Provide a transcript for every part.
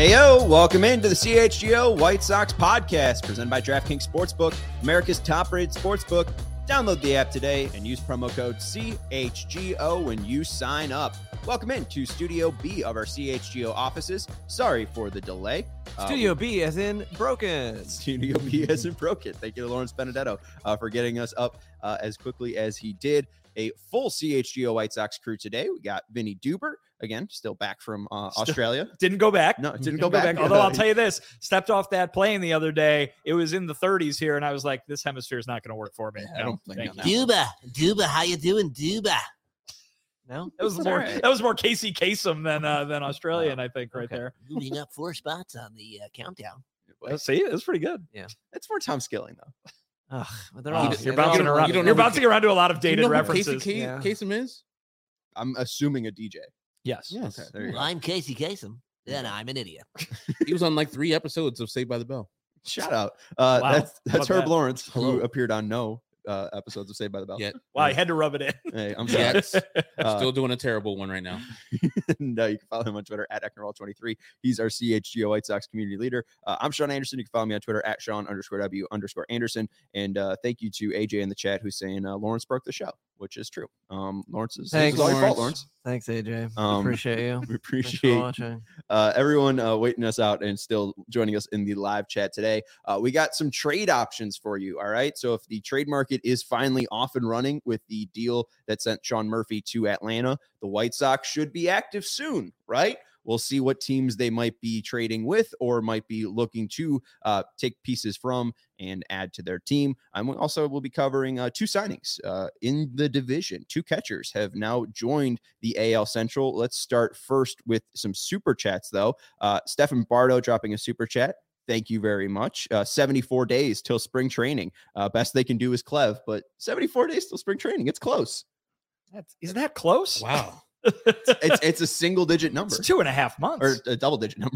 Heyo, welcome into the CHGO White Sox podcast presented by DraftKings Sportsbook, America's top-rated sportsbook. Download the app today and use promo code CHGO when you sign up. Welcome into Studio B of our CHGO offices. Sorry for the delay. Studio B as in broken. Studio B as in broken. Thank you to Lawrence Benedetto for getting us up as quickly as he did. A full CHGO White Sox crew today. We got Vinny Duber, again, still back from Australia. Didn't go back. No, didn't go back. Although I'll tell you this, stepped off that plane the other day. It was in the 30s here, and I was like, this hemisphere is not going to work for me. I don't think Duba, how you doing, Duba? No, that was more Casey Kasem than Australian, I think, right there. Moving up 4 spots on the countdown. See, it was pretty good. Yeah, it's more Tom Skilling though. They're all, you're bouncing around. You're bouncing around to a lot of dated references. Kasem is? I'm assuming a DJ. Yes. Okay, there you go. I'm Casey Kasem. Then I'm an idiot. He was on like 3 episodes of Saved by the Bell. Shout out. Wow. That's Herb Lawrence, Hello. who appeared on no episodes of Saved by the Bell. Yeah. Wow, I had to rub it in. Hey, I'm sorry. Yes. Still doing a terrible one right now. And you can follow him on Twitter at Ecknerall23. He's our CHGO White Sox community leader. I'm Sean Anderson. You can follow me on Twitter at Sean_W_Anderson. And thank you to AJ in the chat who's saying Lawrence broke the show, which is true. Lawrence is Thanks, all your fault, Lawrence. Thanks, AJ. Appreciate you. We appreciate everyone waiting us out and still joining us in the live chat today. We got some trade options for you. All right. So if the trade market is finally off and running with the deal that sent Sean Murphy to Atlanta, the White Sox should be active soon, right? We'll see what teams they might be trading with or might be looking to take pieces from and add to their team. We'll be covering 2 signings in the division. 2 catchers have now joined the AL Central. Let's start first with some super chats, though. Stefan Bardo dropping a super chat. Thank you very much. 74 days till spring training. Best they can do is Clev, but 74 days till spring training. It's close. Isn't that close? Wow. It's a single digit number. It's 2.5 months. Or a double digit number.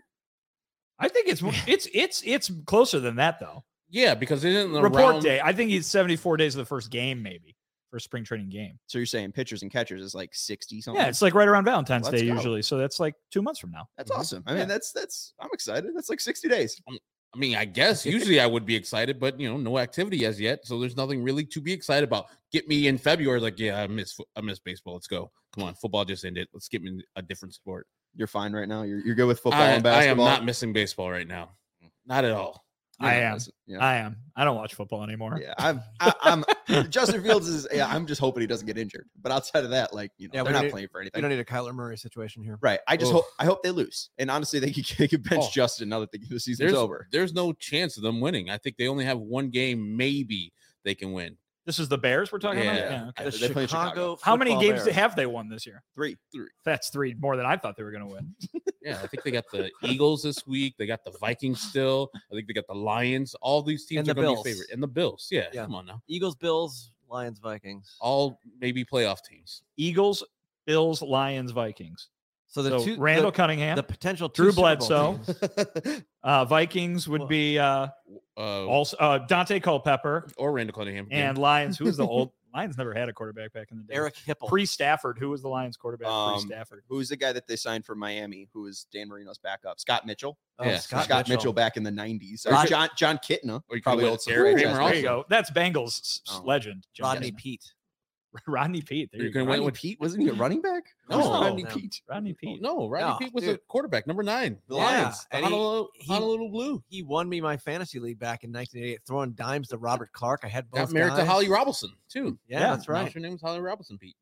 I think it's closer than that, though. Yeah, because it isn't the report day. I think he's 74 days of the first game, maybe. For a spring training game. So you're saying pitchers and catchers is like 60 something? Yeah, it's like right around Valentine's Day usually. So that's like 2 months from now. That's awesome. I mean, that's I'm excited. That's like 60 days. I mean, I guess usually I would be excited, but no activity as yet. So there's nothing really to be excited about. Get me in February. Like, yeah, I miss baseball. Let's go. Come on. Football just ended. Let's get me a different sport. You're fine right now. You're good with football and basketball. I am not missing baseball right now. Not at all. I am. I don't watch football anymore. Yeah, I'm Justin Fields is. Yeah, I'm just hoping he doesn't get injured. But outside of that, they're not playing for anything. You don't need a Kyler Murray situation here, right? I hope they lose. And honestly, they could bench Justin now that the season's over. There's no chance of them winning. I think they only have 1 game. Maybe they can win. This is the Bears we're talking about? Yeah. Okay. They play Chicago. How many games have they won this year? 3. That's 3 more than I thought they were going to win. Yeah, I think they got the Eagles this week. They got the Vikings still. I think they got the Lions. All these teams are going to be favorite. And the Bills. Yeah, come on now. Eagles, Bills, Lions, Vikings. All maybe playoff teams. Eagles, Bills, Lions, Vikings. So Randall Cunningham, the potential Drew Bledsoe, Vikings would be also Dante Culpepper or Randall Cunningham, and Lions. Who was the old Lions? Never had a quarterback back in the day. Eric Hipple, pre-Stafford. Who was the Lions quarterback? Pre-Stafford. Who's the guy that they signed from Miami? Who was Dan Marino's backup? Scott Mitchell. Yeah, Scott Mitchell back in the 90s. John Kitna. Probably old Eric Kramer. There you go. That's Bengals legend. Rodney Peete. Rodney Peete. You're going to win with Pete? Wasn't he a running back? No, Rodney Peete. Rodney Peete. No, Rodney Peete was a quarterback, number 9. The Lions. The Honolulu Blue. He won me my fantasy league back in 1988, throwing dimes to Robert Clark. I had both. Got married to Holly Robinson too. Yeah, that's right. Her name was Holly Robinson, Pete.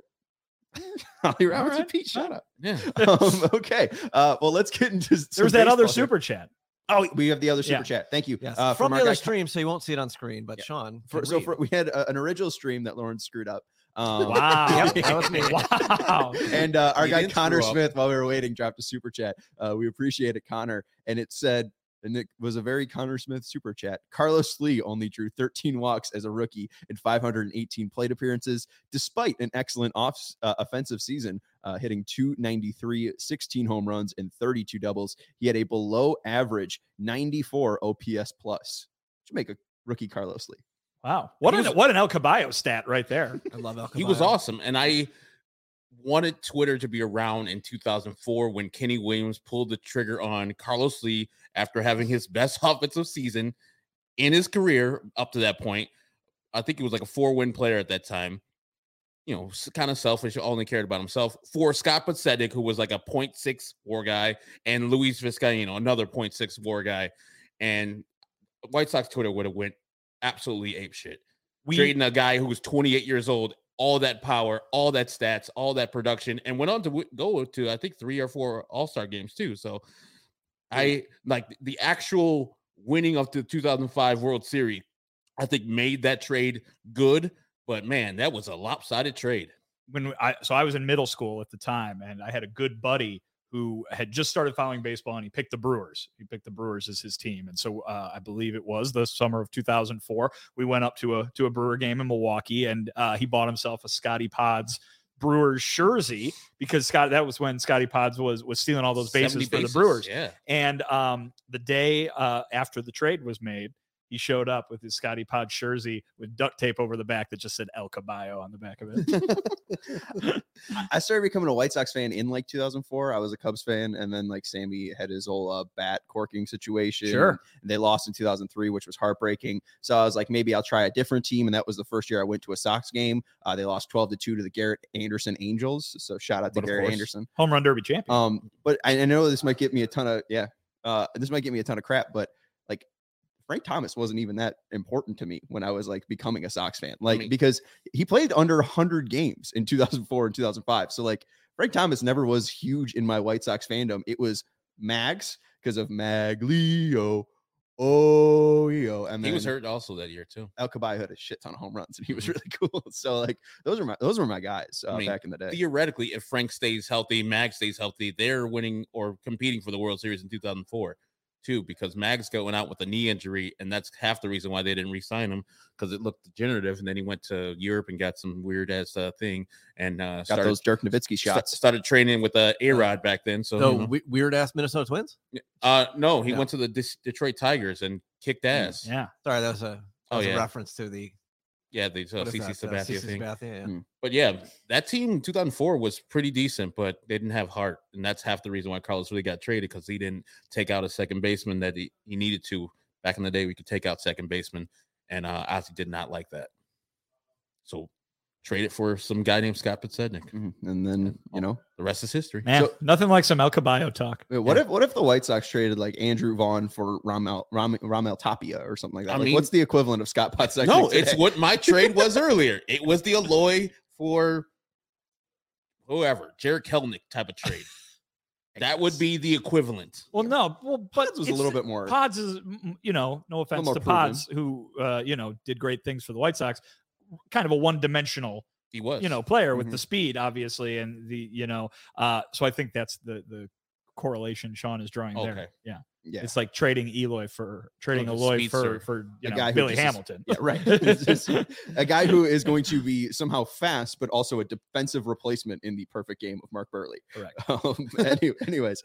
Holly Robinson, Pete. Shut up. Yeah. Okay. Well, let's get into. There's that other super chat. Oh, we have the other super chat. Thank you. Yes. From the other stream, so you won't see it on screen. But Sean, we had an original stream that Lauren screwed up. Wow. That was me. Wow. And our guy Connor Smith, while we were waiting, dropped a super chat. We appreciate it, Connor. And it said, and it was a very Connor Smith super chat. Carlos Lee only drew 13 walks as a rookie in 518 plate appearances, despite an excellent offensive season, hitting .293, 16 home runs, and 32 doubles. He had a below average 94 OPS plus. Should make a rookie Carlos Lee. Wow. What an El Caballo stat right there. I love El Caballo. He was awesome. And I wanted Twitter to be around in 2004 when Kenny Williams pulled the trigger on Carlos Lee after having his best offensive season in his career up to that point. I think he was like a 4-win player at that time. You know, kind of selfish, only cared about himself. For Scott Podsednik, who was like a 0.6 WAR guy, and Luis Vizcaino, another 0.6 WAR guy, and White Sox Twitter would have went absolutely apeshit. Trading a guy who was 28 years old, all that power, all that stats, all that production, and went on to go to I think 3 or 4 All-Star games too. So I like the actual winning of the 2005 World Series. I think made that trade good. But man, that was a lopsided trade. I was in middle school at the time, and I had a good buddy who had just started following baseball, and he picked the Brewers. He picked the Brewers as his team, and so I believe it was the summer of 2004. We went up to a Brewer game in Milwaukee, and he bought himself a Scotty Pods Brewers jersey because that was when Scotty Pods was stealing all those bases for the Brewers. Yeah, and the day after the trade was made, he showed up with his Scotty Pod jersey with duct tape over the back that just said El Caballo on the back of it. I started becoming a White Sox fan in like 2004. I was a Cubs fan, and then like Sammy had his whole bat corking situation. Sure. And they lost in 2003, which was heartbreaking. So I was like, maybe I'll try a different team. And that was the first year I went to a Sox game. They lost 12-2 to the Garrett Anderson Angels. So shout out to Garrett Anderson, home run derby champion. But I know this might get me a ton of crap, but like Frank Thomas wasn't even that important to me when I was like becoming a Sox fan, because he played under 100 games in 2004 and 2005. So like Frank Thomas never was huge in my White Sox fandom. It was Mags because of Maglio. And then he was hurt also that year too. El Caballo had a shit ton of home runs, and he was really cool. So like those were my guys back in the day. Theoretically, if Frank stays healthy, Mags stays healthy, they're winning or competing for the World Series in 2004. Too, because Mags went out with a knee injury, and that's half the reason why they didn't re-sign him, because it looked degenerative. And then he went to Europe and got some weird ass thing, and got those Dirk Nowitzki shots. Started training with A-Rod back then. So weird ass Minnesota Twins. No, he went to the Detroit Tigers and kicked ass. Yeah, sorry, that was a reference to the. Yeah, the CC Sabathia thing. Yeah. But yeah, that team in 2004 was pretty decent, but they didn't have heart. And that's half the reason why Carlos really got traded, because he didn't take out a second baseman that he needed to. Back in the day, we could take out second baseman, and Ozzie did not like that. So trade it for some guy named Scott Podsednik. Mm-hmm. And then, the rest is history. Man, nothing like some El Caballo talk. What if the White Sox traded like Andrew Vaughn for Ramel Tapia or something like that? What's the equivalent of Scott Podsednik? No, it's what my trade was earlier. It was the Eloy for whoever, Jared Kelenic type of trade. That would be the equivalent. But Pods was a little bit more. Pods is, no offense to Pods, who did great things for the White Sox. Kind of a one-dimensional, he was, player with the speed, obviously, and the, so I think that's the correlation Sean is drawing there. Yeah. It's like trading Eloy for a guy Billy Hamilton. Yeah, right. It's a guy who is going to be somehow fast, but also a defensive replacement in the perfect game of Mark Burley. Correct. Anyways,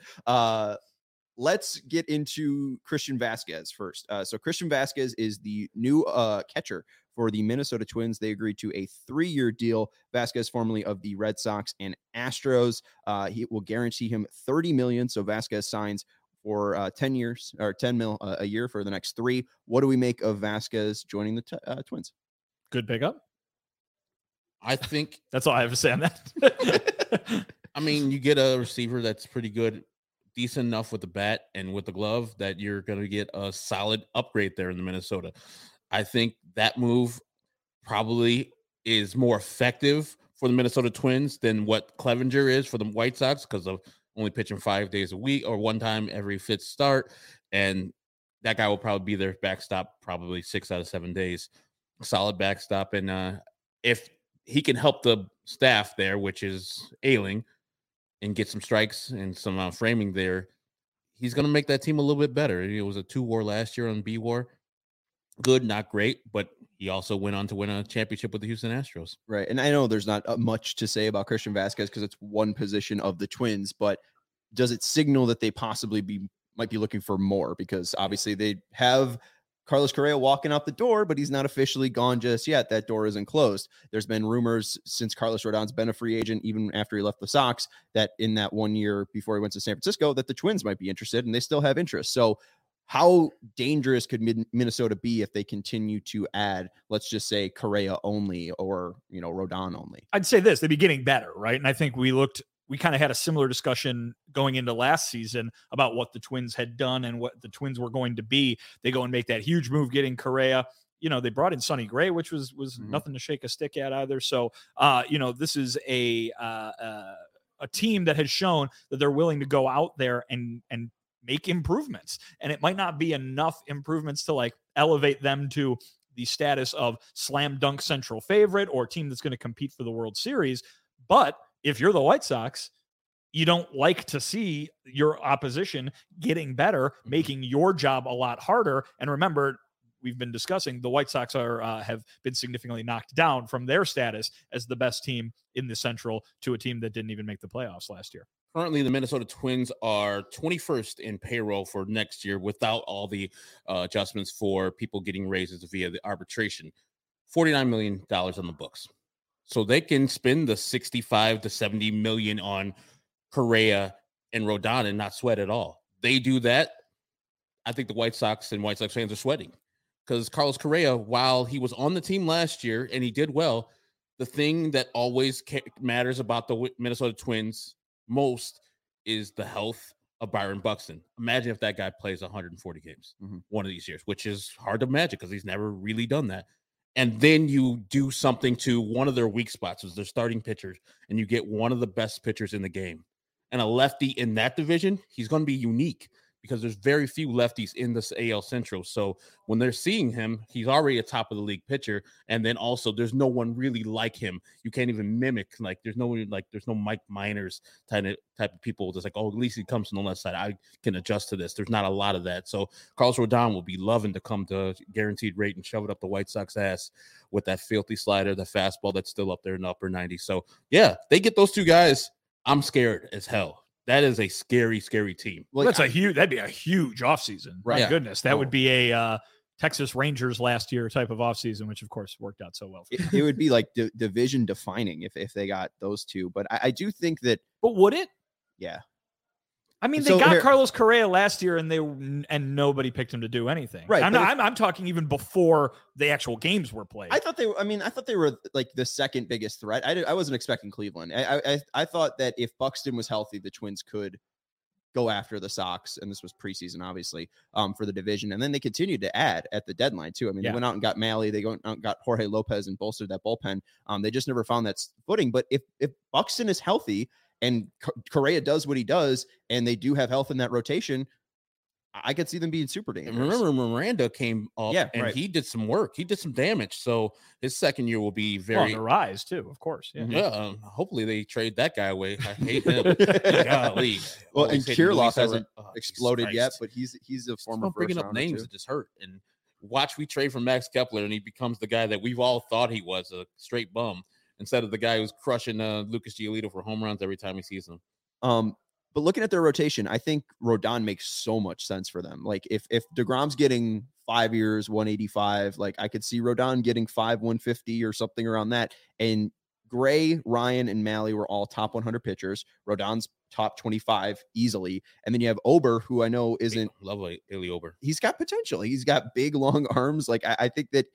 let's get into Christian Vasquez first. So Christian Vasquez is the new catcher for the Minnesota Twins. They agreed to a 3-year deal. Vasquez, formerly of the Red Sox and Astros, he will guarantee him $30 million. So Vasquez signs for 10 years or $10 million a year for the next 3. What do we make of Vasquez joining the Twins? Good pickup. I think that's all I have to say on that. I mean, you get a receiver that's pretty good, decent enough with the bat and with the glove that you're going to get a solid upgrade there in the Minnesota. I think that move probably is more effective for the Minnesota Twins than what Clevenger is for the White Sox, because of only pitching 5 days a week or one time every 5th start. And that guy will probably be their backstop probably 6 out of 7 days. Solid backstop. And if he can help the staff there, which is ailing, and get some strikes and some framing there, he's going to make that team a little bit better. It was a 2-WAR last year on B-WAR. Good, not great, but he also went on to win a championship with the Houston Astros. Right. And I know there's not much to say about Christian Vasquez because it's one position of the Twins, but does it signal that they possibly might be looking for more? Because obviously they have Carlos Correa walking out the door, but he's not officially gone just yet. That door isn't closed. There's been rumors since Carlos Rodon's been a free agent, even after he left the Sox, that in that 1 year before he went to San Francisco, that the Twins might be interested, and they still have interest. So how dangerous could Minnesota be if they continue to add, let's just say, Correa only or, Rodon only? I'd say this, they'd be getting better, right? And I think we kind of had a similar discussion going into last season about what the Twins had done and what the Twins were going to be. They go and make that huge move getting Correa. They brought in Sonny Gray, which was nothing to shake a stick at either. So, this is a team that has shown that they're willing to go out there and make improvements. And it might not be enough improvements to like elevate them to the status of slam dunk central favorite or team that's going to compete for the World Series. But if you're the White Sox, you don't like to see your opposition getting better, making your job a lot harder. And remember, we've been discussing the White Sox have been significantly knocked down from their status as the best team in the Central to a team that didn't even make the playoffs last year. Currently, the Minnesota Twins are 21st in payroll for next year without all the adjustments for people getting raises via the arbitration. $49 million on the books. So they can spend the 65 to 70 million on Correa and Rodon and not sweat at all. They do that. I think the White Sox and White Sox fans are sweating because Carlos Correa, while he was on the team last year and he did well, the thing that always matters about the Minnesota Twins most is the health of Byron Buxton. Imagine if that guy plays 140 games one of these years, which is hard to imagine because he's never really done that. And then you do something to one of their weak spots, is their starting pitchers, and you get one of the best pitchers in the game. And a lefty in that division, he's going to be unique because there's very few lefties in this AL Central. So when they're seeing him, he's already a top of the league pitcher. And then also there's no one really like him. You can't even mimic, there's no Mike Miners type of people that's like, oh, at least he comes from the left side. I can adjust to this. There's not a lot of that. So Carlos Rodon will be loving to come to guaranteed rate and shove it up the White Sox ass with that filthy slider, the fastball that's still up there in the upper 90s. So yeah, they get those two guys. I'm scared as hell. That is a scary, scary team. Well, that'd be a huge offseason. Right. My goodness. That would be a Texas Rangers last year type of offseason, which of course worked out so well. It would be like division defining if they got those two. But I do think that. But would it? Yeah. I mean, they got Carlos Correa last year, and nobody picked him to do anything. Right. I'm talking even before the actual games were played. I thought they were like the second biggest threat. I wasn't expecting Cleveland. I thought that if Buxton was healthy, the Twins could go after the Sox, and this was preseason, obviously, for the division. And then they continued to add at the deadline too. I mean, They went out and got Malley. They went out and got Jorge Lopez and bolstered that bullpen. They just never found that footing. But if Buxton is healthy and Correa does what he does, and they do have health in that rotation, I could see them being super dangerous. Remember, Miranda came up he did some work. He did some damage. So his second year will be very on the rise too, of course. Yeah. Hopefully they trade that guy away. I hate him. Golly. Well, and Kirilloff hasn't exploded yet, but he's a former bringing up names that just hurt. And watch we trade for Max Kepler, and he becomes the guy that we've all thought he was, a straight bum, instead of the guy who's crushing Lucas Giolito for home runs every time he sees him. But looking at their rotation, I think Rodon makes so much sense for them. Like if DeGrom's getting 5 years, 185, like I could see Rodon getting 150 or something around that. And Gray, Ryan, and Malley were all top 100 pitchers. Rodon's top 25 easily. And then you have Ober, who I know isn't lovely. Haley Ober. He's got potential. He's got big, long arms. Like I think that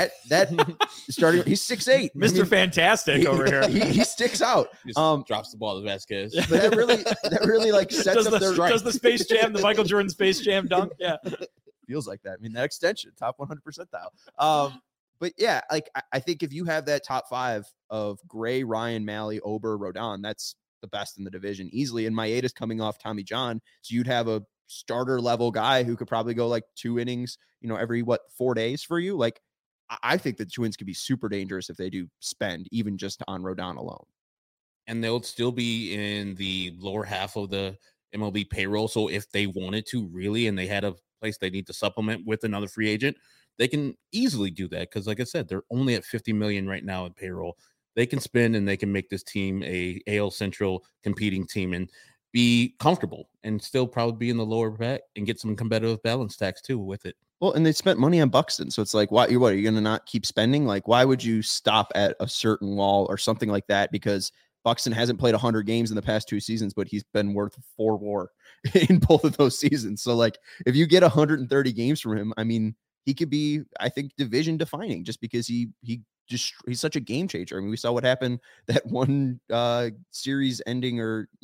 starting, he's 6'8", Mr. Fantastic over here. He sticks out. Drops the ball to Vasquez. But that really like sets up their does the Space Jam, the Michael Jordan Space Jam dunk? Yeah, feels like that. I mean, that extension, top 100 percentile. But yeah, like I think if you have that top five of Gray, Ryan, Malley, Ober, Rodon, that's the best in the division easily. And Maeda's coming off Tommy John, so you'd have a starter level guy who could probably go like 2 innings, every 4 days for you. Like I think the Twins could be super dangerous if they do spend even just on Rodon alone. And they'll still be in the lower half of the MLB payroll. So if they wanted to really, and they had a place they need to supplement with another free agent, they can easily do that. Because like I said, they're only at 50 million right now in payroll. They can spend and they can make this team a AL Central competing team and be comfortable and still probably be in the lower back and get some competitive balance tax too with it. Well, and they spent money on Buxton, so it's like, what are you going to not keep spending? Like, why would you stop at a certain wall or something like that? Because Buxton hasn't played 100 games in the past 2 seasons, but he's been worth 4 more in both of those seasons. So, like, if you get 130 games from him, I mean, he could be, I think, division defining just because he's such a game changer. I mean, we saw what happened that one series ending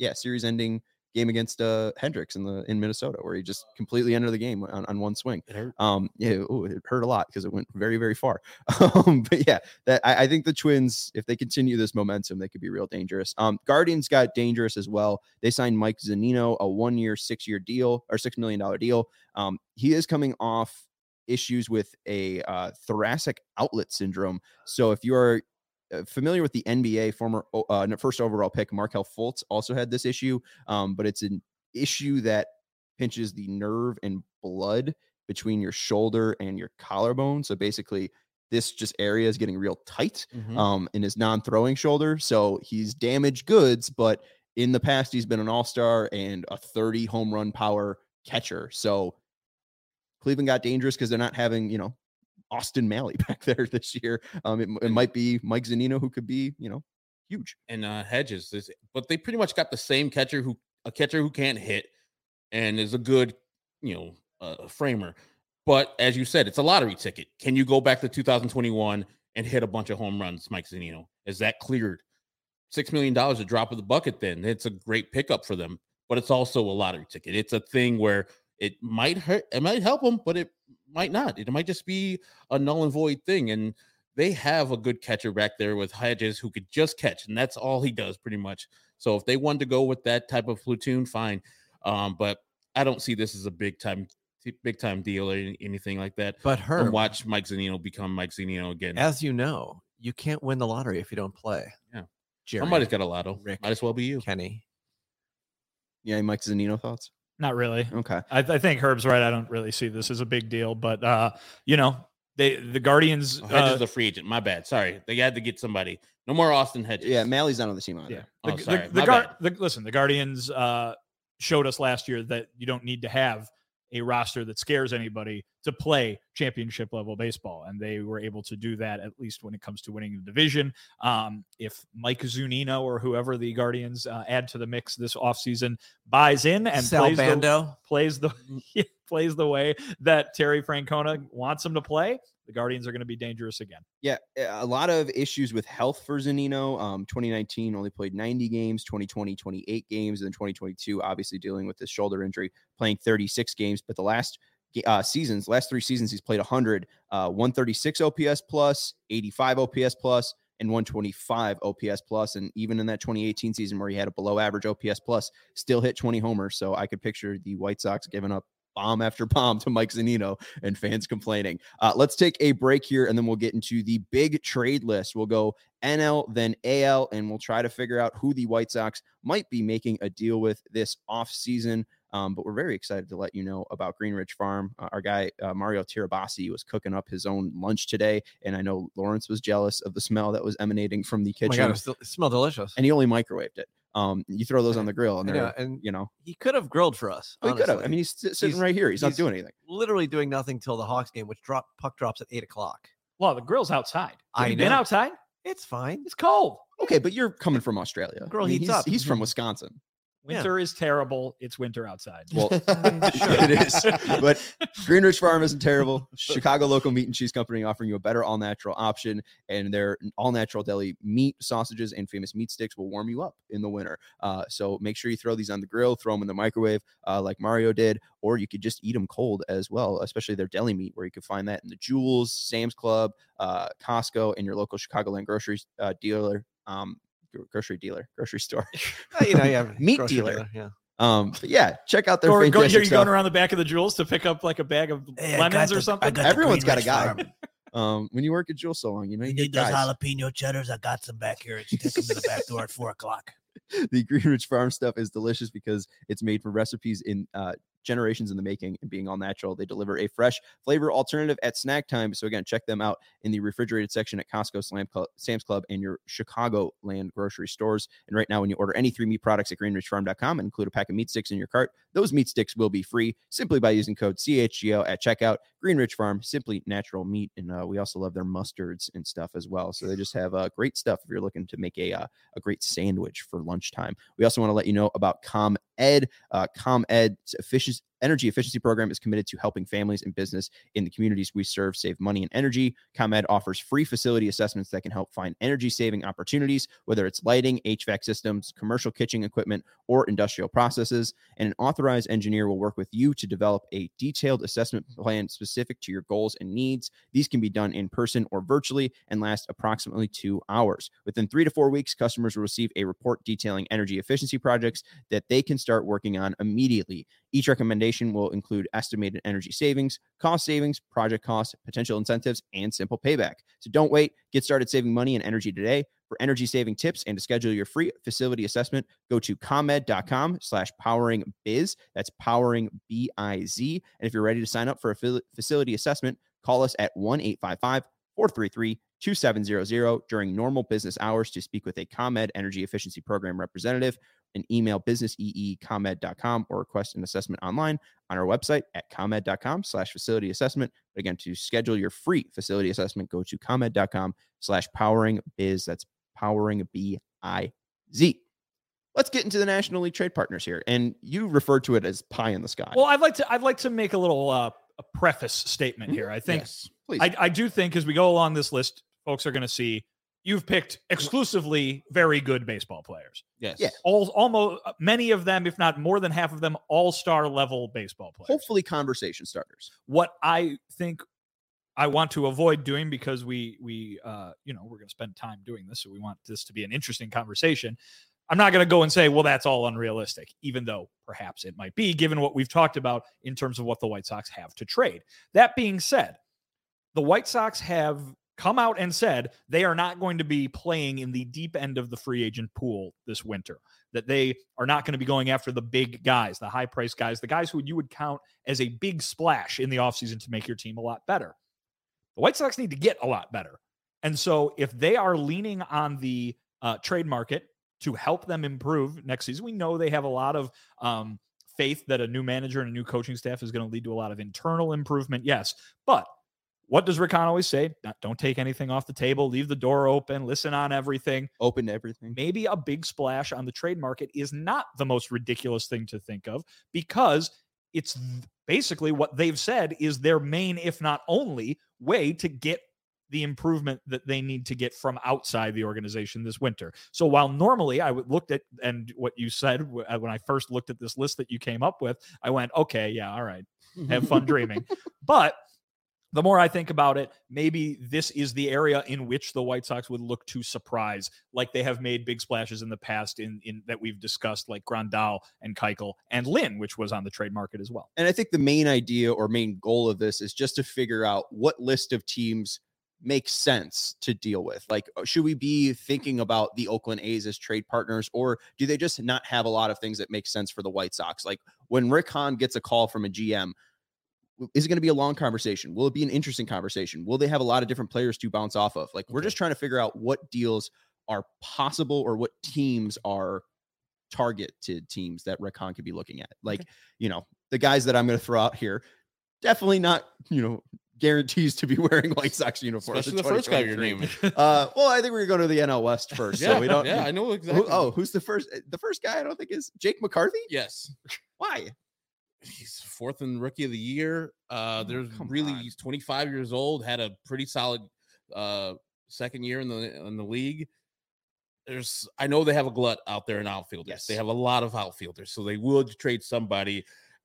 game against Hendricks in Minnesota, where he just completely ended the game on one swing. It hurt. It hurt a lot because it went very, very far. But yeah, I think the Twins, if they continue this momentum, they could be real dangerous. Guardians got dangerous as well. They signed Mike Zunino, a 1-year, $6 million deal. He is coming off issues with a thoracic outlet syndrome. So if you are familiar with the NBA, former first overall pick Markelle Fultz also had this issue, but it's an issue that pinches the nerve and blood between your shoulder and your collarbone. So basically, this just area is getting real tight in his non-throwing shoulder. So he's damaged goods, but in the past, he's been an all-star and a 30 home run power catcher. So Cleveland got dangerous because they're not having, Austin Malley back there this year. It might be Mike Zunino, who could be, huge. And Hedges, but they pretty much got the same catcher who can't hit and is a good, framer. But as you said, it's a lottery ticket. Can you go back to 2021 and hit a bunch of home runs, Mike Zunino? Is that cleared? $6 million, a drop of the bucket. Then it's a great pickup for them, but it's also a lottery ticket. It's a thing where it might hurt, it might help them, but it might not. It might just be a null and void thing. And they have a good catcher back there with Hedges who could just catch, and that's all he does pretty much. So if they wanted to go with that type of platoon, fine. But I don't see this as a big time deal or anything like that. But and watch Mike Zunino become Mike Zunino again. As you know, you can't win the lottery if you don't play. Yeah. Jerry, Somebody's got a lotto. Rick, might as well be you. Kenny. Yeah, Mike Zunino thoughts? Not really. Okay. I think Herb's right. I don't really see this as a big deal, but the Guardians. Hedges is a free agent. My bad. Sorry, they had to get somebody. No more Austin Hedges. Yeah, Malley's not on the team either. Yeah. Sorry. The Guardians showed us last year that you don't need to have a roster that scares anybody to play championship level baseball. And they were able to do that, at least when it comes to winning the division. If Mike Zunino or whoever the Guardians add to the mix this offseason buys in and plays the way that Terry Francona wants him to play, the Guardians are going to be dangerous again. Yeah, a lot of issues with health for Zunino. 2019 only played 90 games, 2020 28 games, and then 2022 obviously dealing with this shoulder injury, playing 36 games. But the last 3 seasons, he's played 100, 136 OPS plus, 85 OPS plus, and 125 OPS plus. And even in that 2018 season where he had a below average OPS plus, still hit 20 homers. So I could picture the White Sox giving up bomb after bomb to Mike Zunino and fans complaining. Let's take a break here, and then we'll get into the big trade list. We'll go NL, then AL, and we'll try to figure out who the White Sox might be making a deal with this offseason. But we're very excited to let you know about Green Ridge Farm. Our guy, Mario Tirabassi, was cooking up his own lunch today, and I know Lawrence was jealous of the smell that was emanating from the kitchen. Oh my God, it smelled delicious. And he only microwaved it. You throw those on the grill, and they're, he could have grilled for us. He could have. I mean, he's sitting right here. He's not doing anything. Literally doing nothing till the Hawks game, which puck drops at 8:00. Well, the grill's outside. Have you been outside? It's fine. It's cold. Okay, but you're coming from Australia. Grill heats up. He's from Wisconsin. Winter is terrible. It's winter outside. Well, it is. But Green Ridge Farm isn't terrible. Chicago local meat and cheese company offering you a better all-natural option. And their all-natural deli meat, sausages, and famous meat sticks will warm you up in the winter. So make sure you throw these on the grill, throw them in the microwave like Mario did, or you could just eat them cold as well, especially their deli meat, where you can find that in the Jewels, Sam's Club, Costco, and your local Chicagoland grocery grocery store, meat dealer. But yeah, check out their fantastic stuff. Going around the back of the Jewels to pick up like a bag of lemons or something. Everyone's got a guy. When you work at Jewel so long, you need those jalapeno cheddars. I got some back here. Take them to the back door at 4:00. The Green Ridge Farm stuff is delicious because it's made from recipes in generations in the making and being all natural. They deliver a fresh flavor alternative at snack time. So again, check them out in the refrigerated section at Costco, Sam's Club, and your Chicagoland grocery stores. And right now, when you order any 3 meat products at greenridgefarm.com and include a pack of meat sticks in your cart, those meat sticks will be free simply by using code CHGO at checkout. Green Ridge Farm, simply natural meat. And we also love their mustards and stuff as well. So they just have great stuff if you're looking to make a great sandwich for lunchtime. We also want to let you know about ComEd. ComEd's energy efficiency program is committed to helping families and business in the communities we serve save money and energy. ComEd offers free facility assessments that can help find energy saving opportunities, whether it's lighting, HVAC systems, commercial kitchen equipment, or industrial processes. And an authorized engineer will work with you to develop a detailed assessment plan specific to your goals and needs. These can be done in person or virtually and last approximately 2 hours. Within 3 to 4 weeks, customers will receive a report detailing energy efficiency projects that they can start working on immediately. Each recommendation will include estimated energy savings, cost savings, project costs, potential incentives, and simple payback. So don't wait. Get started saving money and energy today. For energy saving tips and to schedule your free facility assessment, go to comed.com/poweringbiz. That's powering BIZ. And if you're ready to sign up for a facility assessment, call us at 1-855-433-2700 during normal business hours to speak with a ComEd Energy Efficiency Program representative, and email business@comed.com or request an assessment online on our website at comed.com/facility assessment. But again, to schedule your free facility assessment, go to comed.com/poweringbiz. That's powering BIZ. Let's get into the National League trade partners here. And you referred to it as pie in the sky. Well, I'd like to make a little a preface statement here. I think Yes. Please. I do think as we go along this list, folks are going to see you've picked exclusively very good baseball players. Yes. Yeah. Almost many of them, if not more than half of them, all-star level baseball players. Hopefully conversation starters. What I think I want to avoid doing, because we're going to spend time doing this, so we want this to be an interesting conversation. I'm not going to go and say, well, that's all unrealistic, even though perhaps it might be, given what we've talked about in terms of what the White Sox have to trade. That being said, the White Sox have come out and said they are not going to be playing in the deep end of the free agent pool this winter, that they are not going to be going after the big guys, the high-priced guys, the guys who you would count as a big splash in the offseason to make your team a lot better. The White Sox need to get a lot better. And so if they are leaning on the trade market to help them improve next season, we know they have a lot of faith that a new manager and a new coaching staff is going to lead to a lot of internal improvement. Yes, but what does Rick Hahn always say? Don't take anything off the table. Leave the door open. Listen on everything. Open to everything. Maybe a big splash on the trade market is not the most ridiculous thing to think of, because it's basically what they've said is their main, if not only, way to get the improvement that they need to get from outside the organization this winter. So while normally I would looked at, and what you said when I first looked at this list that you came up with, I went, okay, yeah, all right, have fun dreaming. But the more I think about it, maybe this is the area in which the White Sox would look to surprise, like they have made big splashes in the past in that we've discussed, like Grandal and Keuchel and Lynn, which was on the trade market as well. And I think the main idea or main goal of this is just to figure out what list of teams makes sense to deal with. Like, should we be thinking about the Oakland A's as trade partners, or do they just not have a lot of things that make sense for the White Sox? Like when Rick Hahn gets a call from a GM, is it going to be a long conversation? Will it be an interesting conversation? Will they have a lot of different players to bounce off of? Like, we're just trying to figure out what deals are possible or what teams are targeted teams that Rick Hahn could be looking at. Like, the guys that I'm going to throw out here, definitely not, guarantees to be wearing White Sox uniforms. Especially the first guy you're naming. Well, I think we're going to go to the NL West first. Yeah, so we don't. Yeah, I know exactly. Who's the first? The first guy I don't think is Jake McCarthy. Yes. Why? He's fourth in Rookie of the Year. He's 25 years old, had a pretty solid second year in the league. I know they have a glut out there in outfielders. Yes. They have a lot of outfielders, so they would trade somebody.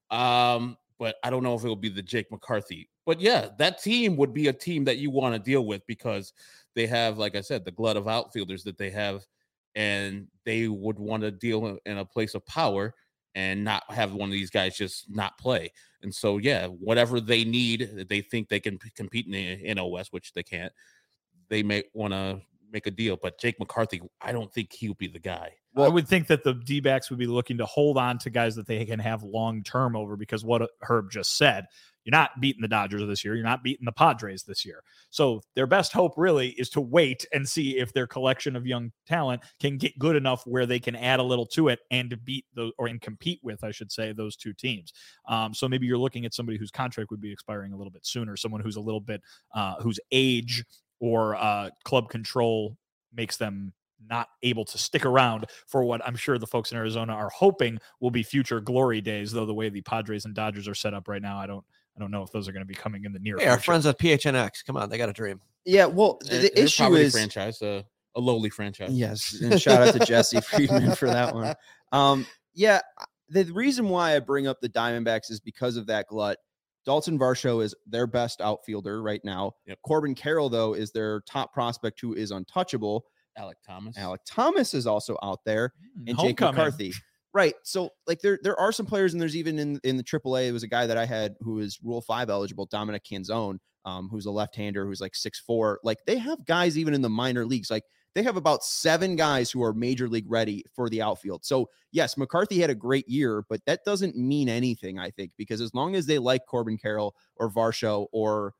But I don't know if it will be the Jake McCarthy. But yeah, that team would be a team that you want to deal with because they have, like I said, the glut of outfielders that they have, and they would want to deal in a place of power and not have one of these guys just not play. And so, yeah, whatever they need, they think they can compete in the NL West, which they can't. They may want to make a deal. But Jake McCarthy, I don't think he'll be the guy. I would think that the D-backs would be looking to hold on to guys that they can have long-term over, because what Herb just said, you're not beating the Dodgers this year. You're not beating the Padres this year. So their best hope really is to wait and see if their collection of young talent can get good enough where they can add a little to it and to beat those, or and compete with, I should say, those two teams. So maybe you're looking at somebody whose contract would be expiring a little bit sooner, someone who's a little bit, whose age or club control makes them not able to stick around for what I'm sure the folks in Arizona are hoping will be future glory days. Though the way the Padres and Dodgers are set up right now, I don't know if those are going to be coming in the near Hey, future. our friends at PHNX, come on, they got a dream. Yeah, well, They're the issue probably is franchise, a lowly franchise. yes, and shout out to Jesse Friedman for that one. Yeah, the reason why I bring up the Diamondbacks is because of that glut. Dalton Varsho is their best outfielder right now. Yep. Corbin Carroll, though, is their top prospect who is untouchable. Alec Thomas. Alec Thomas is also out there, and Jake Homecoming. McCarthy. Right. So, like, there are some players, and there's even in the AAA, it was a guy that I had who is Rule 5 eligible, Dominic Canzone, who's a left-hander who's like 6'4". Like, they have guys even in the minor leagues. Like, they have about 7 guys who are major league ready for the outfield. So, yes, McCarthy had a great year, but that doesn't mean anything, I think, because as long as they like Corbin Carroll or Varsho or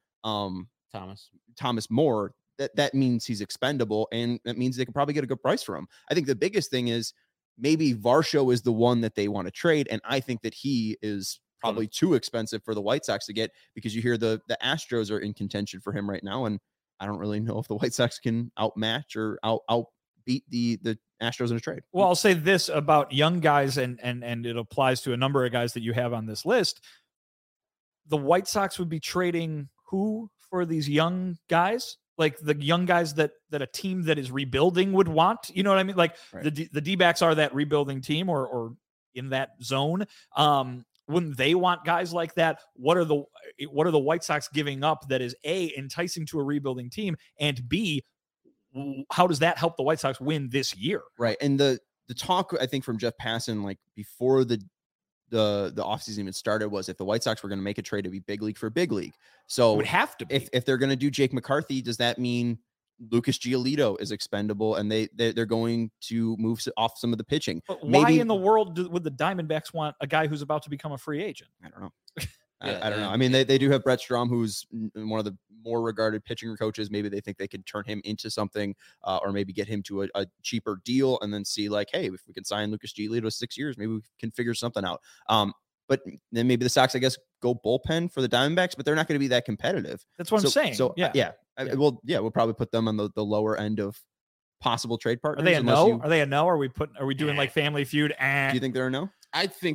Thomas Moore, that means he's expendable, and that means they can probably get a good price for him. I think the biggest thing is maybe Varsho is the one that they want to trade, and I think that he is probably too expensive for the White Sox to get, because you hear the Astros are in contention for him right now, and I don't really know if the White Sox can outmatch or outbeat the Astros in a trade. Well, I'll say this about young guys, and it applies to a number of guys that you have on this list. The White Sox would be trading who for these young guys? Like the young guys that a team that is rebuilding would want, you know what I mean? Like right. the D-backs are that rebuilding team or in that zone. Wouldn't they want guys like that? What are the White Sox giving up that is A, enticing to a rebuilding team, and B, how does that help the White Sox win this year? Right. And the talk, I think, from Jeff Passan, like before the offseason even started, was if the White Sox were going to make a trade to be big league for big league. So it would have to be. If they're going to do Jake McCarthy, does that mean Lucas Giolito is expendable and they're going to move off some of the pitching? But why in the world would the Diamondbacks want a guy who's about to become a free agent? I don't know. I don't know. I mean, they do have Brett Strom, who's one of the more regarded pitching coaches. Maybe they think they could turn him into something, or maybe get him to a cheaper deal and then see, like, hey, if we can sign Lucas Giolito to 6 years, maybe we can figure something out. But then maybe the Sox, I guess, go bullpen for the Diamondbacks, but they're not going to be that competitive. That's what I'm saying. So yeah. We'll probably put them on the lower end of possible trade partners. Are they a no? Are they a no? Are we doing like Family Feud? Do you think they're a no? I think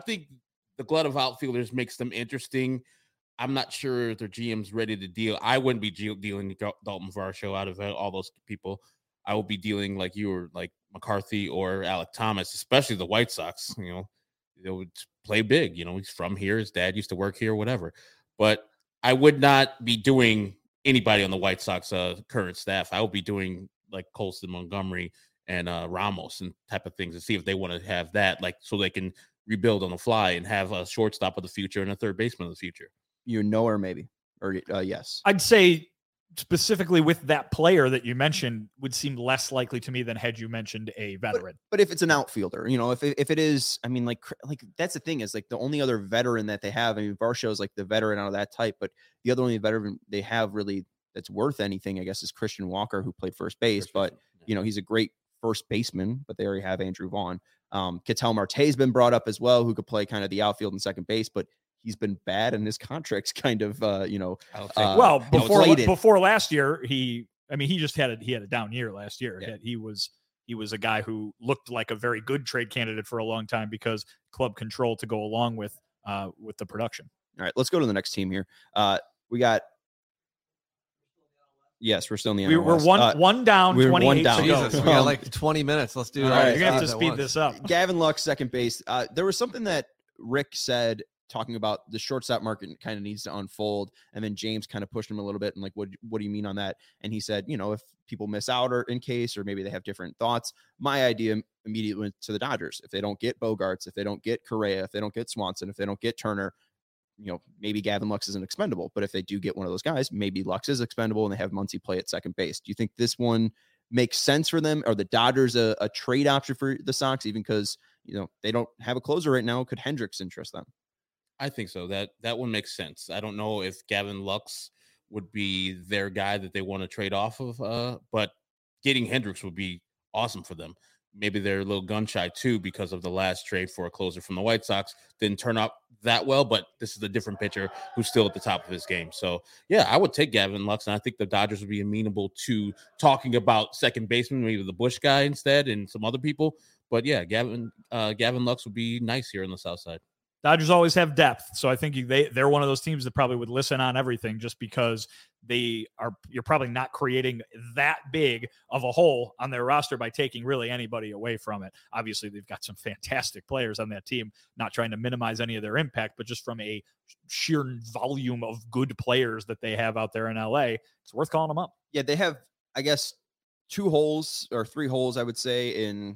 the glut of outfielders makes them interesting. I'm not sure if their GM's ready to deal. I wouldn't be dealing Dalton Varsho out of all those people. I would be dealing like you were, like McCarthy or Alec Thomas, especially the White Sox. You know, they would play big. You know, he's from here. His dad used to work here, whatever. But I would not be doing anybody on the White Sox current staff. I would be doing like Colston, Montgomery, and Ramos and type of things to see if they want to have that, like, so they can rebuild on the fly and have a shortstop of the future and a third baseman of the future. You know, or maybe, or yes. I'd say specifically with that player that you mentioned would seem less likely to me than had you mentioned a veteran. But if it's an outfielder, you know, if it is, I mean, like that's the thing is, like, the only other veteran that they have, I mean, Varsho is like the veteran out of that type, but the other only veteran they have really that's worth anything, I guess, is Christian Walker, who played first base, but you know, he's a great first baseman, but they already have Andrew Vaughn. Ketel Marte's been brought up as well, who could play kind of the outfield and second base, but he's been bad and his contract's kind of, before last year, he just had a down year last year. Yeah. He was a guy who looked like a very good trade candidate for a long time because club control to go along with the production. All right, let's go to the next team here. Yes, we're still in the NL West. We're one down, 28 to go. Jesus, we got like 20 minutes. Let's do it. Right, you're going to have to speed this up. Gavin Lux, second base. There was something that Rick said talking about the shortstop market kind of needs to unfold. And then James kind of pushed him a little bit and like, what do you mean on that? And he said, you know, if people miss out or in case, or maybe they have different thoughts, my idea immediately went to the Dodgers. If they don't get Bogarts, if they don't get Correa, if they don't get Swanson, if they don't get Turner, you know, maybe Gavin Lux isn't expendable, but if they do get one of those guys, maybe Lux is expendable and they have Muncy play at second base. Do you think this one make sense for them? Are the Dodgers a trade option for the Sox, even because, they don't have a closer right now? Could Hendricks interest them? I think so. That one makes sense. I don't know if Gavin Lux would be their guy that they want to trade off of, but getting Hendricks would be awesome for them. Maybe they're a little gun shy too because of the last trade for a closer from the White Sox. Didn't turn out that well, but this is a different pitcher who's still at the top of his game. So, yeah, I would take Gavin Lux, and I think the Dodgers would be amenable to talking about second baseman, maybe the Bush guy instead and some other people. But, yeah, Gavin Lux would be nice here on the South Side. Dodgers always have depth, so I think they're one of those teams that probably would listen on everything just because you're probably not creating that big of a hole on their roster by taking really anybody away from it. Obviously, they've got some fantastic players on that team, not trying to minimize any of their impact, but just from a sheer volume of good players that they have out there in LA, it's worth calling them up. Yeah, they have, I guess, 2 holes or 3 holes, I would say, in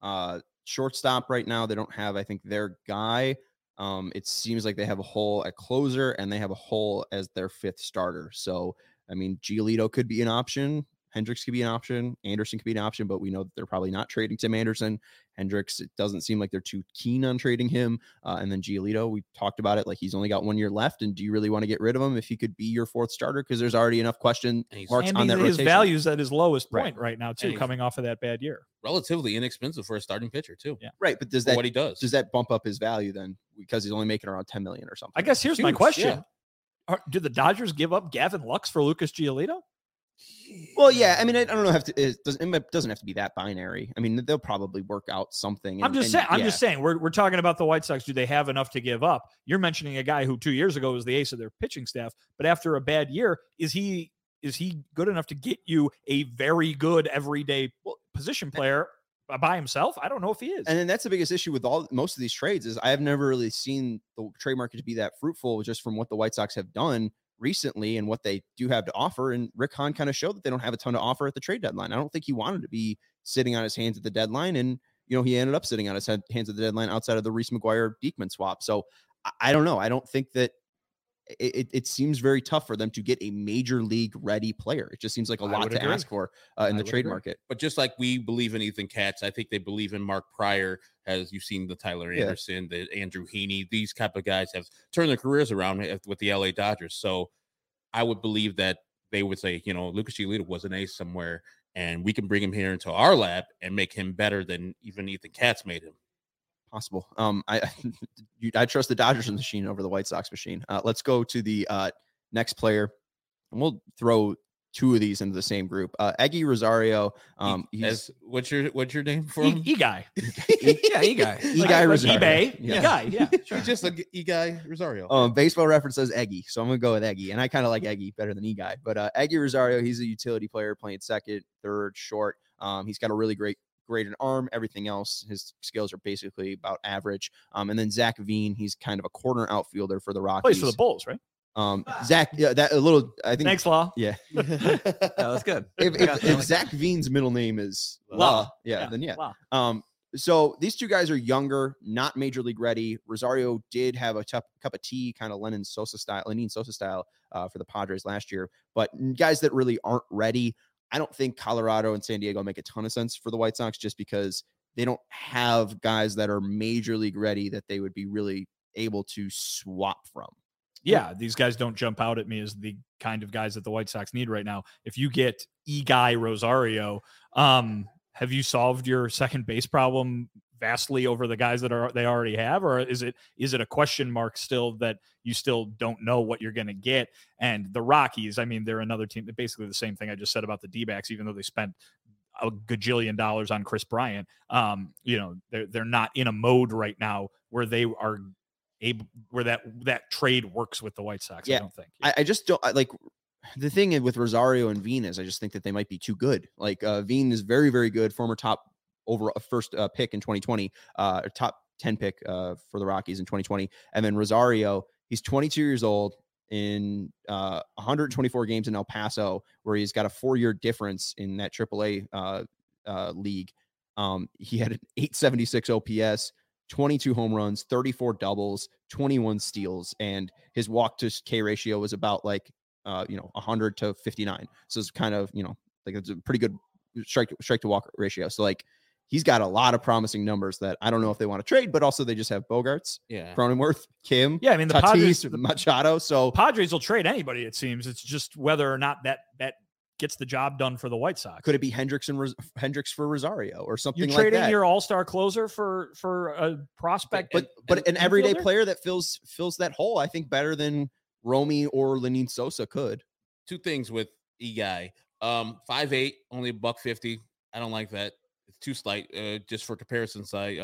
shortstop right now. They don't have, I think, their guy. It seems like they have a hole at closer and they have a hole as their 5th starter. So, I mean, Giolito could be an option. Hendricks could be an option. Anderson could be an option, but we know that they're probably not trading Tim Anderson. Hendricks, it doesn't seem like they're too keen on trading him. And then Giolito, we talked about it, like he's only got 1 year left. And do you really want to get rid of him if he could be your 4th starter? Because there's already enough question marks on that his rotation. value's at his lowest point right now, too, And coming off of that bad year. Relatively inexpensive for a starting pitcher, too. Yeah. Right, but does what he does. Does that bump up his value then because he's only making around $10 million or something? I guess here's my Huge, question. yeah. Did the Dodgers give up Gavin Lux for Lucas Giolito? Well, yeah. I mean, I don't know. It doesn't have to be that binary. I mean, they'll probably work out something. I'm just saying. We're talking about the White Sox. Do they have enough to give up? You're mentioning a guy who 2 years ago was the ace of their pitching staff, but after a bad year, is he good enough to get you a very good everyday position player by himself? I don't know if he is. And then that's the biggest issue with most of these trades is I have never really seen the trade market to be that fruitful just from what the White Sox have done recently and what they do have to offer. And Rick Hahn kind of showed that they don't have a ton to offer at the trade deadline. I don't think he wanted to be sitting on his hands at the deadline. And, he ended up sitting on his hands at the deadline outside of the Reese McGuire-Diekman swap. So I don't know. I don't think that it seems very tough for them to get a major league ready player. It just seems like a lot to ask for in the trade market. But just like we believe in Ethan Katz, I think they believe in Mark Pryor, as you've seen the Tyler Anderson, the Andrew Heaney. These type of guys have turned their careers around with the LA Dodgers. So I would believe that they would say, Lucas Giolito was an ace somewhere, and we can bring him here into our lab and make him better than even Ethan Katz made him. Possible. I trust the Dodgers machine over the White Sox machine. Let's go to the next player, and we'll throw 2 of these into the same group. Eggy Rosario. What's your name for him? E-Guy. E-Guy. E-Guy Rosario. eBay. Yeah. E-Guy. Yeah. Sure. Just like E-Guy Rosario. Baseball Reference says Eggy, so I'm gonna go with Eggy, and I kind of like Eggy better than E-Guy. But Eggy Rosario, he's a utility player playing second, third, short. He's got a really great an arm. Everything else, his skills are basically about average. And then Zach Veen, he's kind of a corner outfielder for the Rockies. Plays for the Bulls, right? Zach, that a little. I think. Thanks, Law. Yeah, That was good. If Zach Veen's middle name is Law, then yeah. Law. So these 2 guys are younger, not major league ready. Rosario did have a cup of tea, kind of Lenyn Sosa style for the Padres last year, but guys that really aren't ready. I don't think Colorado and San Diego make a ton of sense for the White Sox just because they don't have guys that are major league ready that they would be really able to swap from. Yeah, these guys don't jump out at me as the kind of guys that the White Sox need right now. If you get E-Guy Rosario, have you solved your second base problem vastly over the guys that they already have, or is it a question mark still that you still don't know what you're going to get? And the Rockies, I mean, they're another team that basically the same thing I just said about the D-backs, even though they spent a gajillion dollars on Chris Bryant. They're not in a mode right now where they are able, where that trade works with the White Sox. Yeah, I don't think. I just don't like. The thing with Rosario and Veen is I just think that they might be too good. Like Veen is very, very good, former top first pick in 2020, top 10 pick for the Rockies in 2020. And then Rosario, he's 22 years old in 124 games in El Paso, where he's got a 4-year difference in that AAA league. He had an 876 OPS, 22 home runs, 34 doubles, 21 steals, and his walk to K ratio was about 100 to 59. So it's kind of, like it's a pretty good strike to walk ratio. So like he's got a lot of promising numbers that I don't know if they want to trade, but also they just have Bogarts, Yeah. Cronenworth, Kim, Yeah, I mean the Tatis, Padres, Machado. So Padres will trade anybody. It seems it's just whether or not that gets the job done for the White Sox. could it be Hendricks for Rosario or something You're like trading that? your all-star closer for a prospect, but an everyday infielder? player that fills that hole, I think better than Romy or Lenin Sosa could. Two things with Guy. 5'8", only $150. I don't like that. It's too slight. Just for comparison side,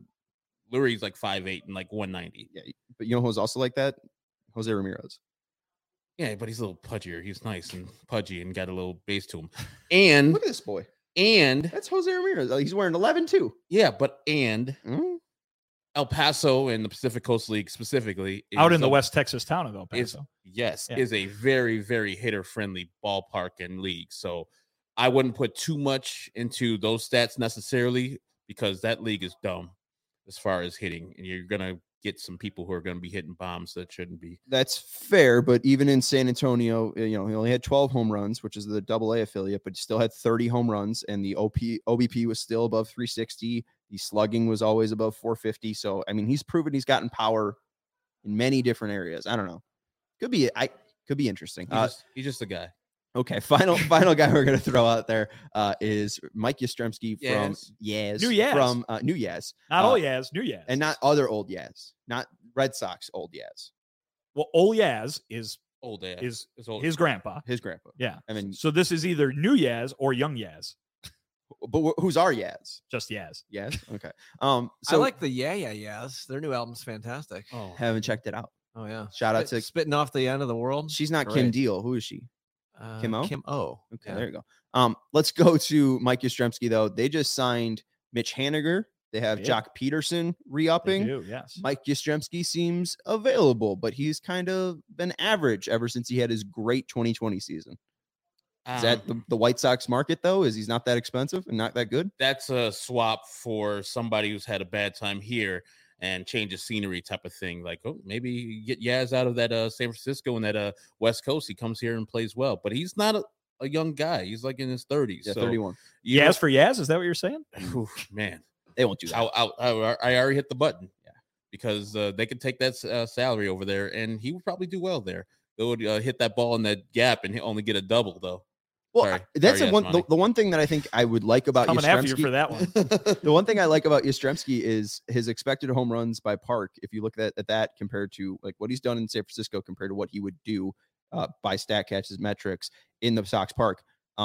Lurie's like 5'8" and like 190. Yeah, but you know who's also like that? Jose Ramirez. Yeah, but he's a little pudgier. He's nice and pudgy and got a little base to him. And Look at this boy. and That's Jose Ramirez. Oh, he's wearing 11 too. yeah, but and Mm. El Paso and the Pacific Coast League specifically out is in the a- West Texas town of El is Paso. yes Yeah. is a very, very hitter friendly ballpark and league. So I wouldn't put too much into those stats necessarily because that league is dumb as far as hitting, and you're gonna get some people who are gonna be hitting bombs that shouldn't be. That's fair, but even in San Antonio, he only had 12 home runs, which is the AA affiliate, but he still had 30 home runs, and the OBP was still above 360. The slugging was always above 450. So, I mean, he's proven he's gotten power in many different areas. I don't know. Could be interesting. He's just a guy. Okay, final guy we're gonna throw out there is Mike Yastrzemski from Yaz. New Yaz. from New Yaz, Not old Yaz, new Yaz. and not other old Yaz, not Red Sox old Yaz, well, old Yaz is Old ass. is It's old. his grandpa. his grandpa. Yeah. I mean, So this is either new Yaz or young Yaz. but who's our Yaz? Just Yaz. Yaz. Okay. I So like the Yes. Their new album's fantastic. Oh, haven't checked it out. Oh yeah. Shout out to Spitting off the end of the world. she's not Kim Great. Deal. Who is she? Kim O? Kim O. Okay, Yeah. there you go. Let's go to Mike Yastrzemski though. They just signed Mitch Haniger. They have Yeah. Jock Peterson They re-upping. do, yes. Mike Yastrzemski seems available, but he's kind of been average ever since he had his great 2020 season. Is that the White Sox market though? Is he's not that expensive and not that good? that's a swap for somebody who's had a bad time here and change of scenery type of thing. Like, oh, maybe you get Yaz out of that San Francisco and that West Coast. He comes here and plays well, but he's not a young guy. He's like in his 30s. Yeah, so 31. you Yaz for Yaz? Is that what you're saying? know- man, They won't do that. I already hit the button. Yeah, because they could take that salary over there, and he would probably do well there. They would hit that ball in that gap and only get a double though. Well, Sorry. that's Sorry, the one. Yasmani. The one thing that I think I would like about Coming after you Yastrzemski. for that one. The one thing I like about Yastrzemski is his expected home runs by park. If you look at that compared to like what he's done in San Francisco compared to what he would do by StatCatch's metrics in the Sox park,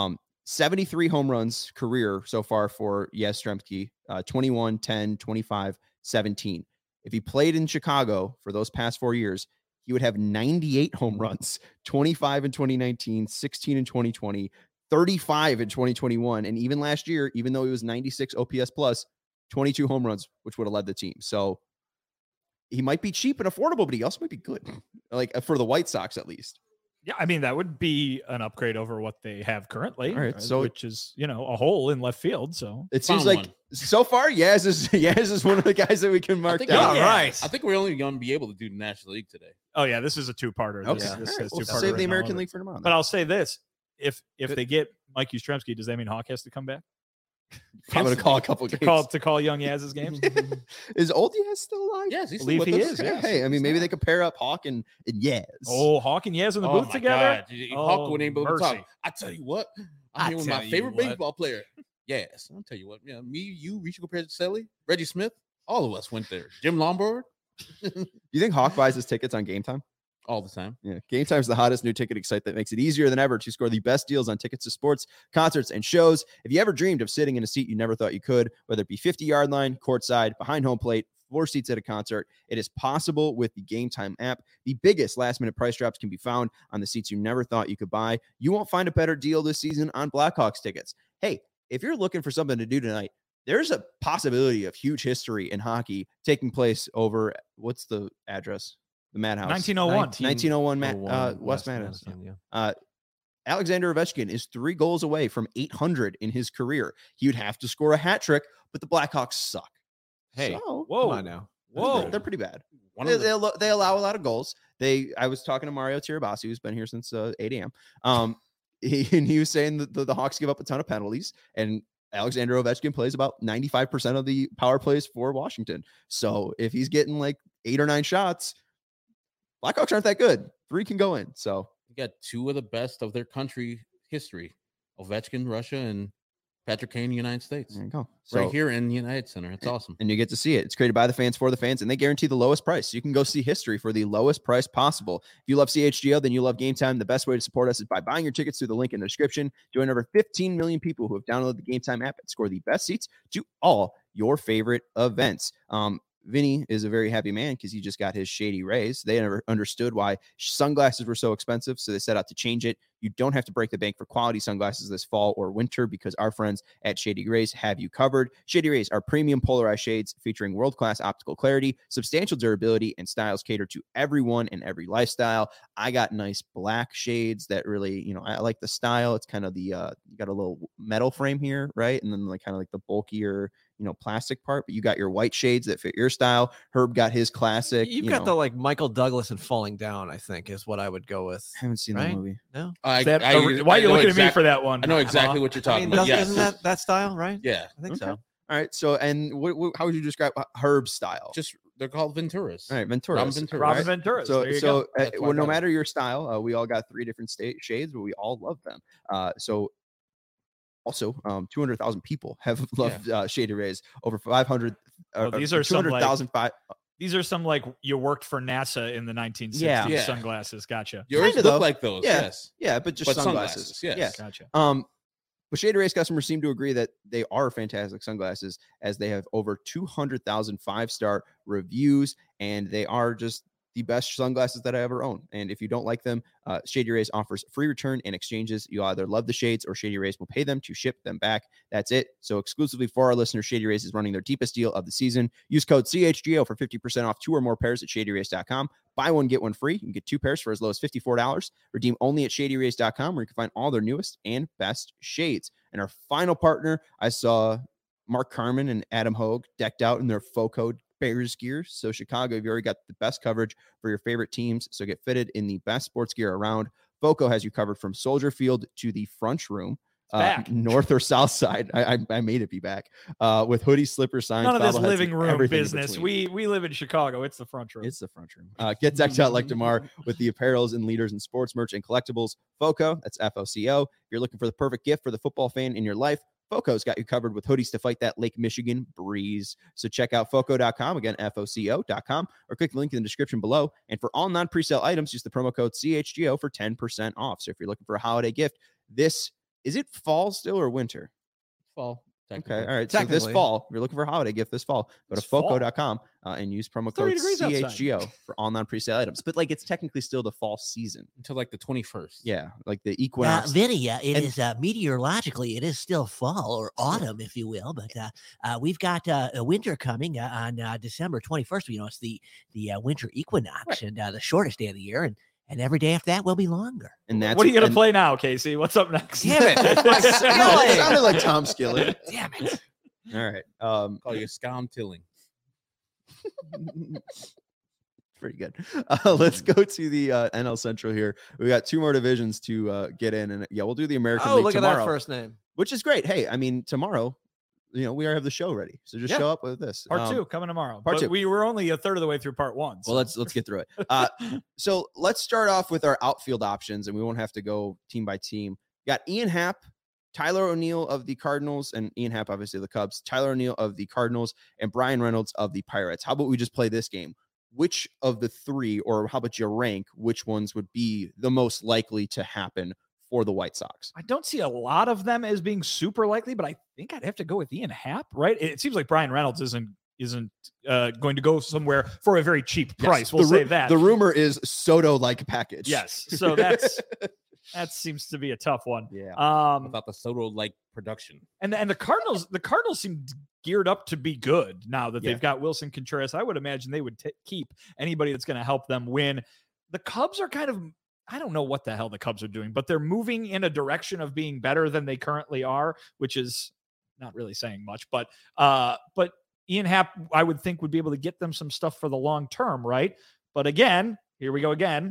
73 home runs career so far for Yastrzemski, 21, 10, 25, 17. If he played in Chicago for those past 4 years, he would have 98 home runs, 25 in 2019, 16 in 2020, 35 in 2021. And even last year, even though he was 96 OPS plus, 22 home runs, which would have led the team. So he might be cheap and affordable, but he also might be good, like for the White Sox at least. Yeah, I mean that would be an upgrade over what they have currently, All right, so- which is a hole in left field. So It seems Found like one. so far, Yaz is one of the guys that we can mark think down. we- All right. I think we're only going to be able to do the National League today. oh yeah, this is a two-parter. Okay, This, all this right, says we'll two-parter save the written all American over it. League for tomorrow. But I'll say this: if Good. they get Mike Yastrzemski, does that mean Hawk has to come back? I'm going to call a couple to games. call young Yaz's games? Is old Yaz still alive? Yes, he's Believe still he with us. is, Yeah, yes. hey, I mean, maybe they could pair up Hawk and Yaz. Oh, Hawk and Yaz in the Oh booth my together. God. Oh, Hawk wouldn't able to talk. mercy. I tell you what, I I'm here with my tell you favorite what. baseball player. Yes, I'll tell you what. Yeah, me, you, Richo Petrocelli, Reggie Smith, all of us went there. Jim Lombard, You think Hawk buys his tickets on Game Time? all the time. Yeah, Game Time is the hottest new ticketing site that makes it easier than ever to score the best deals on tickets to sports, concerts, and shows. If you ever dreamed of sitting in a seat you never thought you could, whether it be 50-yard line, courtside, behind home plate, floor seats at a concert, it is possible with the Game Time app. The biggest last-minute price drops can be found on the seats you never thought you could buy. You won't find a better deal this season on Blackhawks tickets. Hey, if you're looking for something to do tonight, there's a possibility of huge history in hockey taking place over, what's the address? The Madhouse. 1901. 1901 West Madison. Yeah. Alexander Ovechkin is 3 goals away from 800 in his career. He would have to score a hat trick, but the Blackhawks suck. Hey, So, Whoa, come on now. whoa! they're pretty bad. One They, of the, they allow a lot of goals. I was talking to Mario Tirabassi, who's been here since 8 a.m. he was saying that the Hawks give up a ton of penalties, and Alexander Ovechkin plays about 95% of the power plays for Washington. So if he's getting like 8 or 9 shots, Blackhawks aren't that good. 3 can go in. So You got 2 of the best of their country history: Ovechkin, Russia, and Patrick Kane, United States. there you go. Right So- here in the United Center. It's awesome. And you get to see it. It's created by the fans for the fans, and they guarantee the lowest price. You can go see history for the lowest price possible. If you love CHGO, then you love Game Time. The best way to support us is by buying your tickets through the link in the description. Join over 15 million people who have downloaded the Game Time app and score the best seats to all your favorite events. Vinny is a very happy man because he just got his Shady Rays. They never understood why sunglasses were so expensive, so they set out to change it. You don't have to break the bank for quality sunglasses this fall or winter because our friends at Shady Rays have you covered. Shady Rays are premium polarized shades featuring world-class optical clarity, substantial durability, and styles cater to everyone and every lifestyle. I got nice black shades that really, I like the style. It's kind of the, you got a little metal frame here, right? And then like kind of like the bulkier, plastic part, but you got your white shades that fit your style. Herb got his classic. You've got the like Michael Douglas and Falling Down, I think, is what I would go with. I haven't seen right? the movie. No, why are you looking at me for that one? I know exactly what you're talking about. Yes. Isn't that style, right? Yeah. I think Okay. so. All right. So, and how would you describe Herb's style? Just they're called Venturas. all right, Ventura. Robin Ventura. Robin right? Ventura. So, There you go. That's why I no got it. matter your style, we all got 3 different shades, but we all love them. Also, 200,000 people have loved Shady Rays. Over 500. These are some, like, 200,000. These are some like you worked for NASA in the 1960s Yeah. sunglasses. Gotcha. Yours Kinda look though. like those. Yeah. Yes. Yeah, but just sunglasses. Yes. Yeah. Gotcha. But Shady Rays customers seem to agree that they are fantastic sunglasses, as they have over 200,000 5-star reviews, and they are just the best sunglasses that I ever owned. And if you don't like them, Shady Rays offers free return and exchanges. You'll either love the shades or Shady Rays will pay them to ship them back. That's it. So exclusively for our listeners, Shady Rays is running their deepest deal of the season. Use code CHGO for 50% off 2 or more pairs at ShadyRays.com. Buy one, get one free. You can get 2 pairs for as low as $54. Redeem only at ShadyRays.com, where you can find all their newest and best shades. And our final partner, I saw Mark Carman and Adam Hogue decked out in their FOCO Bears gear. So Chicago, you've already got the best coverage for your favorite teams. So get fitted in the best sports gear around. FOCO has you covered from Soldier Field to the front room, back. north or south side. I made it be back with hoodies, slippers, signs. None of this bobbleheads, living and room everything in business. between. We live in Chicago. It's the front room. It's the front room. Get decked out like DeMar with the apparels and leaders in sports merch and collectibles. FOCO, that's FOCO. If you're looking for the perfect gift for the football fan in your life, FOCO's got you covered with hoodies to fight that Lake Michigan breeze. So check out FOCO.com, again, FOCO.com, or click the link in the description below. And for all non-presale items, use the promo code CHGO for 10% off. So if you're looking for a holiday gift, is it fall still or winter? Fall. Okay. All right. So this Technically. fall, if you're looking for a holiday gift this fall, go to It's fall. FOCO.com and use promo 30 code degrees outside. CHGO for all non-presale items. But like, it's technically still the fall season. Until like the 21st. Yeah. Like the equinox. Vinny, it And- is meteorologically, it is still fall or autumn, if you will. But we've got a winter coming on December 21st. It's the winter equinox and the shortest day of the year. And every day after that will be longer. And that's What are you going to and- play now, Casey? What's up next? Damn it. That's my It skillet. sounded like Tom Skillet. Damn it. All right. Call you Scam Tilling. Pretty good. Let's go to the NL Central here. We got 2 more divisions to get in, and we'll do the American Oh, League look tomorrow, at that first name. which is great. Hey, I mean, tomorrow, we already have the show ready, so just Yeah. show up with this. Part 2 coming tomorrow. part But 2. we were only a third of the way through part 1. Well, let's get through it. So let's start off with our outfield options, and we won't have to go team by team. Got Ian Happ, Tyler O'Neill of the Cardinals, and Ian Happ, obviously the Cubs. Tyler O'Neill of the Cardinals, and Brian Reynolds of the Pirates. How about we just play this game? Which of the 3, or how about you rank which ones would be the most likely to happen for the White Sox? I don't see a lot of them as being super likely, but I think I'd have to go with Ian Happ, right? It seems like Brian Reynolds isn't going to go somewhere for a very cheap price. We'll say that. The rumor is Soto-like package. Yes. So that seems to be a tough one. Yeah. Without the Soto-like production. And the Cardinals seem geared up to be good now that Yeah. they've got Wilson Contreras. I would imagine they would keep anybody that's going to help them win. The Cubs are kind of, I don't know what the hell the Cubs are doing, but they're moving in a direction of being better than they currently are, which is not really saying much. But Ian Happ, I would think, would be able to get them some stuff for the long term, right? But again, here we go again.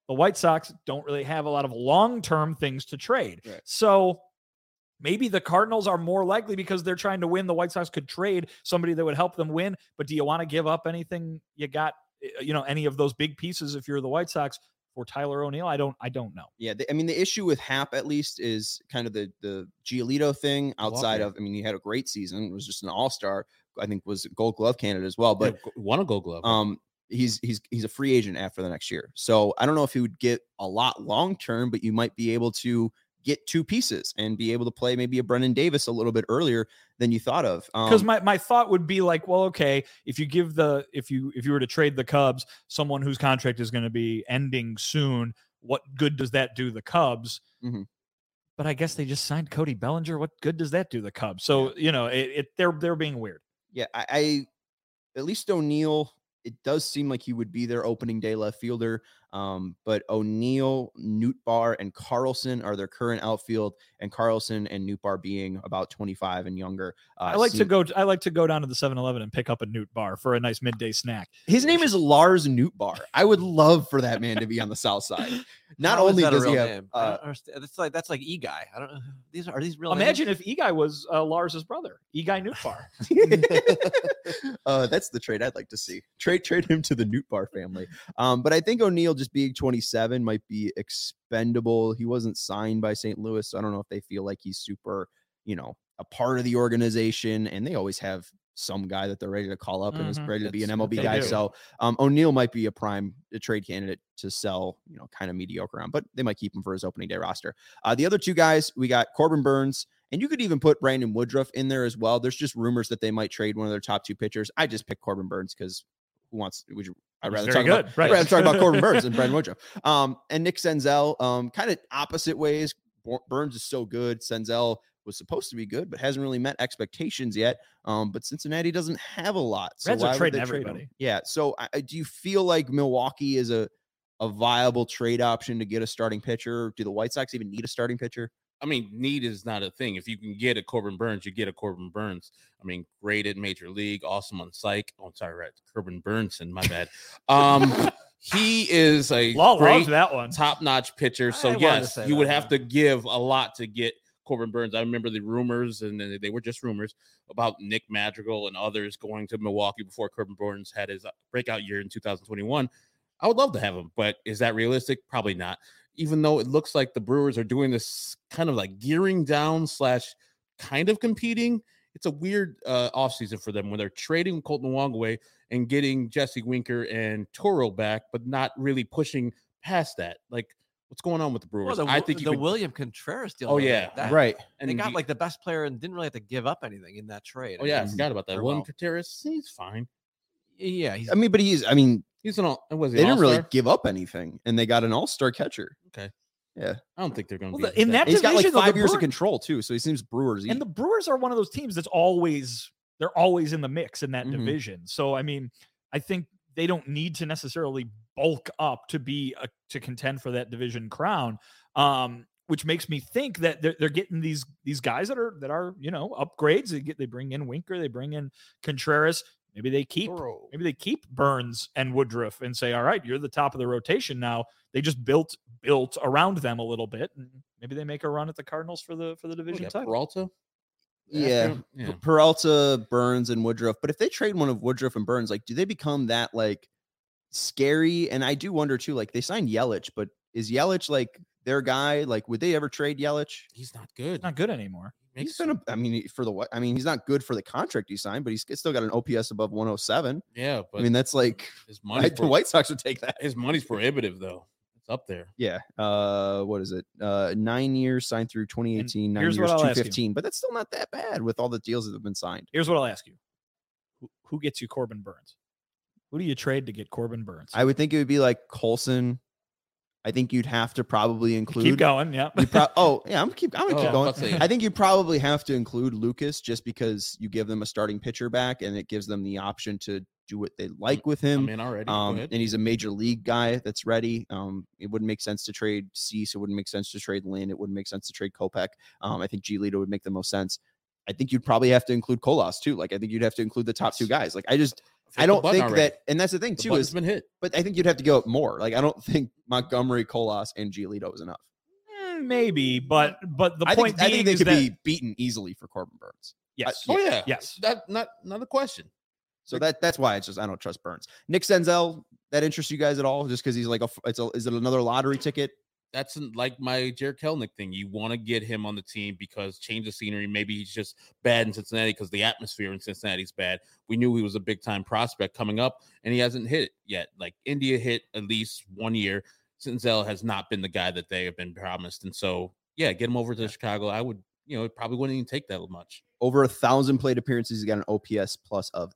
The White Sox don't really have a lot of long-term things to trade. Right. So maybe the Cardinals are more likely because they're trying to win. The White Sox could trade somebody that would help them win. But do you want to give up anything you got, any of those big pieces if you're the White Sox for Tyler O'Neill? I don't know. Yeah, the issue with Happ at least is kind of the Giolito thing outside Walker. of, he had a great season. It was just an all-star. I think was a Gold Glove candidate as well. But won a Gold Glove. he's a free agent after the next year. So I don't know if he would get a lot long-term, but you might be able to get two pieces and be able to play maybe a Brennan Davis a little bit earlier than you thought of. Because my thought would be like, well, okay, if you were to trade the Cubs someone whose contract is going to be ending soon, what good does that do the Cubs? Mm-hmm. But I guess they just signed Cody Bellinger. What good does that do the Cubs? So they're being weird. Yeah, I at least O'Neill, it does seem like he would be their opening day left fielder. But O'Neill, Nootbaar, and Carlson are their current outfield, and Carlson and Nootbaar being about 25 and younger. I like to go down to the 7-Eleven and pick up a Nootbaar for a nice midday snack. His name is Lars Nootbaar. I would love for that man to be on the South Side. Not only does he have, name? I don't understand. That's like Eguy. I don't know. Are these real? Imagine names? if Eguy was Lars's brother, Eguy Nootbaar. That's the trade I'd like to see. Trade him to the Nootbaar family. But I think O'Neill just being 27 might be expendable. He wasn't signed by St. Louis, so I don't know if they feel like he's super, a part of the organization, and they always have some guy that they're ready to call up and is ready to be an MLB guy. do. So O'Neill might be a trade candidate to sell, kind of mediocre on, but they might keep him for his opening day roster. The other two guys, we got Corbin Burns, and you could even put Brandon Woodruff in there as well. There's just rumors that they might trade one of their top two pitchers. I just picked Corbin Burns because I'd rather talk about Corbin Burns than Brandon Woodruff. And Nick Senzel, kind of opposite ways. Burns is so good. Senzel was supposed to be good, but hasn't really met expectations yet. But Cincinnati doesn't have a lot. So Reds are why would trading they trade everybody. him? Yeah. So do you feel like Milwaukee is a viable trade option to get a starting pitcher? Do the White Sox even need a starting pitcher? I mean, need is not a thing. If you can get a Corbin Burns, you get a Corbin Burns. I mean, great at Major League, awesome on psych. Oh, sorry, right. Corbin Burnson, my bad. He is a great that one. top-notch pitcher. So, yes, you would have to give a lot to get Corbin Burns. I remember the rumors, and they were just rumors, about Nick Madrigal and others going to Milwaukee before Corbin Burns had his breakout year in 2021. I would love to have him, but is that realistic? Probably not. Even though it looks like the Brewers are doing this kind of like gearing down / kind of competing. It's a weird offseason for them when they're trading Colton Wong away and getting Jesse Winker and Toro back, but not really pushing past that. Like, what's going on with the Brewers? Well, I think William Contreras deal. Oh, yeah. Right. And they got like the best player and didn't really have to give up anything in that trade. Oh, yeah. I forgot about that. William Contreras, he's fine. Yeah. He's an was he they didn't all-star? really give up anything, and they got an all-star catcher. Okay. Yeah. I don't think they're going to Well, be in that He's got like division, though, 5 the years of Brewers- control too, so he seems Brewers. And the Brewers are one of those teams that's always in the mix in that division. So I mean, I think they don't need to necessarily bulk up to to contend for that division crown. Which makes me think that they're getting these guys that are upgrades. They bring in Winker, they bring in Contreras. Maybe they keep Burns and Woodruff and say, all right, you're the top of the rotation now. They just built around them a little bit, and maybe they make a run at the Cardinals for the division title. Peralta? Yeah. Peralta, Burns, and Woodruff. But if they trade one of Woodruff and Burns, like, do they become that like scary? And I do wonder too, like, they signed Yelich, but is Yelich like their guy? Like, would they ever trade Yelich? He's not good. Not good anymore. He's been he's not good for the contract he signed, but he's still got an OPS above 107. Yeah, but that's like his money. The White Sox would take that. His money's prohibitive, though. It's up there. Yeah. What is it? 9 years signed through 2018. 9 here's years, what I'll ask you. 215. But that's still not that bad with all the deals that have been signed. Here's what I'll ask you: Who gets you Corbin Burns? Who do you trade to get Corbin Burns? I would think it would be like Colson. I think you'd have to probably include. Keep going. Yeah. I'm gonna keep going. let's see. I think you probably have to include Lucas just because you give them a starting pitcher back, and it gives them the option to do what they like with him. I'm in already. Go ahead. And he's a major league guy that's ready. It wouldn't make sense to trade Cease. It wouldn't make sense to trade Lynn. It wouldn't make sense to trade Kopech. I think Giolito would make the most sense. I think you'd probably have to include Colas too. Like, I think you'd have to include the top two guys. Like, I don't think that, and that's the thing too, It's been hit. but I think you'd have to go up more. Like, I don't think Montgomery, Colas, and Giolito is enough. Maybe, but the I point think being they is could that be beaten easily for Corbin Burns. yes, Oh yeah, yes. That not a question. So that's why it's just, I don't trust Burns. Nick Senzel, that interests you guys at all? Just because he's like is it another lottery ticket? That's like my Jared Kelnick thing. You want to get him on the team because change the scenery. Maybe he's just bad in Cincinnati because the atmosphere in Cincinnati is bad. We knew he was a big time prospect coming up, and he hasn't hit it yet. Like India hit at least 1 year. Senzel has not been the guy that they have been promised, and so yeah, get him over to Chicago. I would, it probably wouldn't even take that much. Over 1,000 plate appearances. He's got an OPS plus of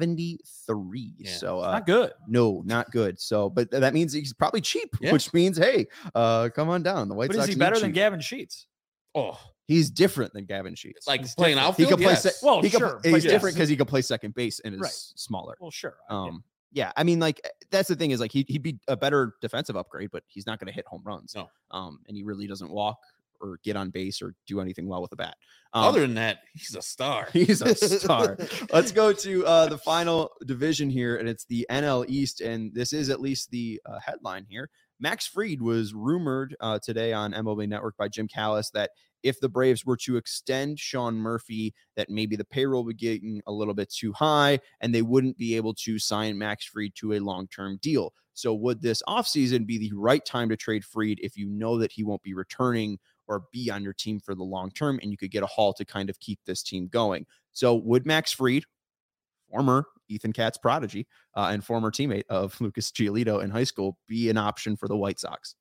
73. Yeah. So Not good. No, not good. So, but that means he's probably cheap, Yeah. which means, hey, come on down. The White But Sox is he need better than cheap. Gavin Sheets? Oh, He's different than Gavin Sheets. like He's playing different. he outfield. can play. Yes. Well, he can- sure, He's but different yes. because he can play second base and is Right. smaller. Well, sure. I get it. Yeah, I mean, like, that's the thing is, like, he'd be a better defensive upgrade, but he's not going to hit home runs. No. And he really doesn't walk or get on base or do anything well with the bat. Other than that, he's a star. He's a star. Let's go to the final division here, and it's the NL East, and this is at least the headline here. Max Fried was rumored today on MLB Network by Jim Callis that if the Braves were to extend Sean Murphy, that maybe the payroll would be getting a little bit too high, and they wouldn't be able to sign Max Fried to a long-term deal. So would this offseason be the right time to trade Fried if you know that he won't be returning or be on your team for the long term, and you could get a haul to kind of keep this team going? So would Max Fried, former Ethan Katz prodigy and former teammate of Lucas Giolito in high school, be an option for the White Sox?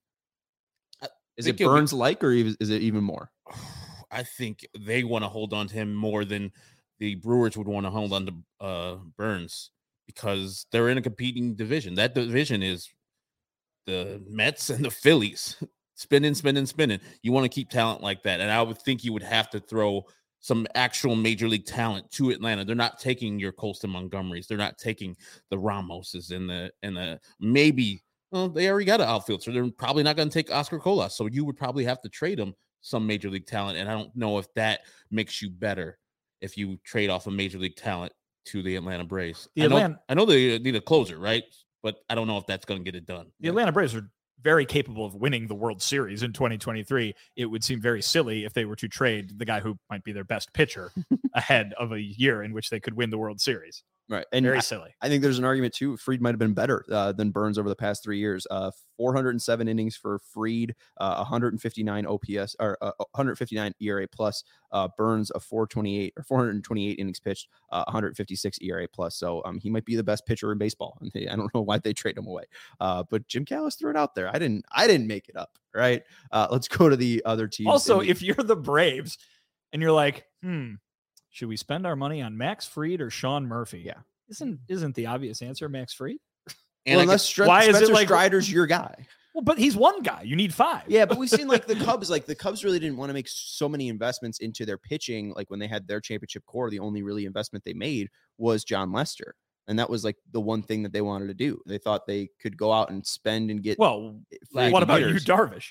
Is it think it'll be- Burns like, or is it even more? I think they want to hold on to him more than the Brewers would want to hold on to Burns because they're in a competing division. That division is the Mets and the Phillies. Spinning. You want to keep talent like that. And I would think you would have to throw some actual major league talent to Atlanta. They're not taking your Colston Montgomerys. They're not taking the Ramoses and the maybe, well, they already got an outfield, so they're probably not going to take Oscar Colas. So you would probably have to trade them some major league talent. And I don't know if that makes you better if you trade off a major league talent to the Atlanta Braves. I know they need a closer, right? But I don't know if that's going to get it done. The Atlanta Braves are very capable of winning the World Series in 2023. It would seem very silly if they were to trade the guy who might be their best pitcher ahead of a year in which they could win the World Series. Right. And Very silly. I think there's an argument too. Fried might have been better than Burns over the past 3 years. 407 innings for Fried, 159 OPS or 159 ERA plus. Burns a 428 innings pitched, 156 ERA plus. So he might be the best pitcher in baseball. I don't know why they trade him away. But Jim Callis threw it out there. I didn't make it up. Right. Let's go to the other teams. Also, if you're the Braves and you're like, should we spend our money on Max Fried or Sean Murphy? Yeah. Isn't the obvious answer Max Fried? And well, unless Spencer Strider's your guy. Well, but he's one guy. You need five. Yeah, but we've seen like the Cubs. Like the Cubs really didn't want to make so many investments into their pitching. Like when they had their championship core, the only really investment they made was John Lester, and that was like the one thing that they wanted to do. They thought they could go out and spend and get. Well, free what about you, hitters. Darvish?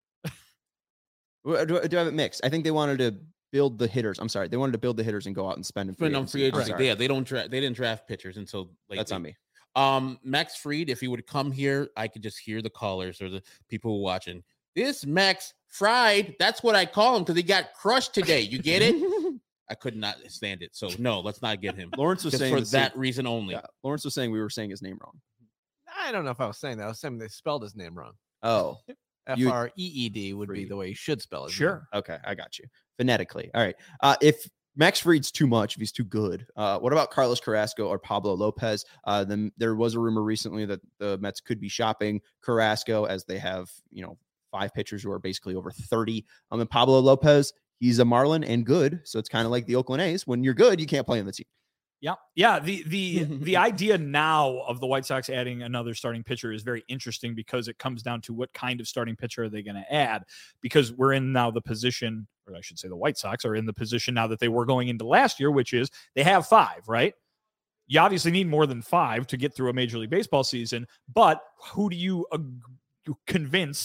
Do I have it mixed? I think they wanted to build the hitters. I'm sorry, they wanted to build the hitters and go out and spend in Spend on free agency. sorry. Yeah, they didn't draft pitchers until late. That's on me. Max Fried, if he would come here, I could just hear the callers or the people who are watching. This Max Fried, that's what I call him because he got crushed today. You get it? I could not stand it. So no, let's not get him. Lawrence was Just saying for the same- that reason only. Yeah, Lawrence was saying we were saying his name wrong. I don't know if I was saying that. I was saying they spelled his name wrong. Oh, You- Freed would be Fried. the way you should spell it. Sure. okay, I got you phonetically. All right. If Max Fried's too much, if he's too good, what about Carlos Carrasco or Pablo Lopez? Then there was a rumor recently that the Mets could be shopping Carrasco as they have, 5 pitchers who are basically over 30. And Pablo Lopez, he's a Marlin and good. So it's kind of like the Oakland A's. When you're good, you can't play on the team. Yeah. Yeah. The idea now of the White Sox adding another starting pitcher is very interesting because it comes down to what kind of starting pitcher are they going to add, because we're in now the position, or I should say the White Sox are in the position now that they were going into last year, which is they have 5, right? You obviously need more than 5 to get through a Major League Baseball season, but who do you convince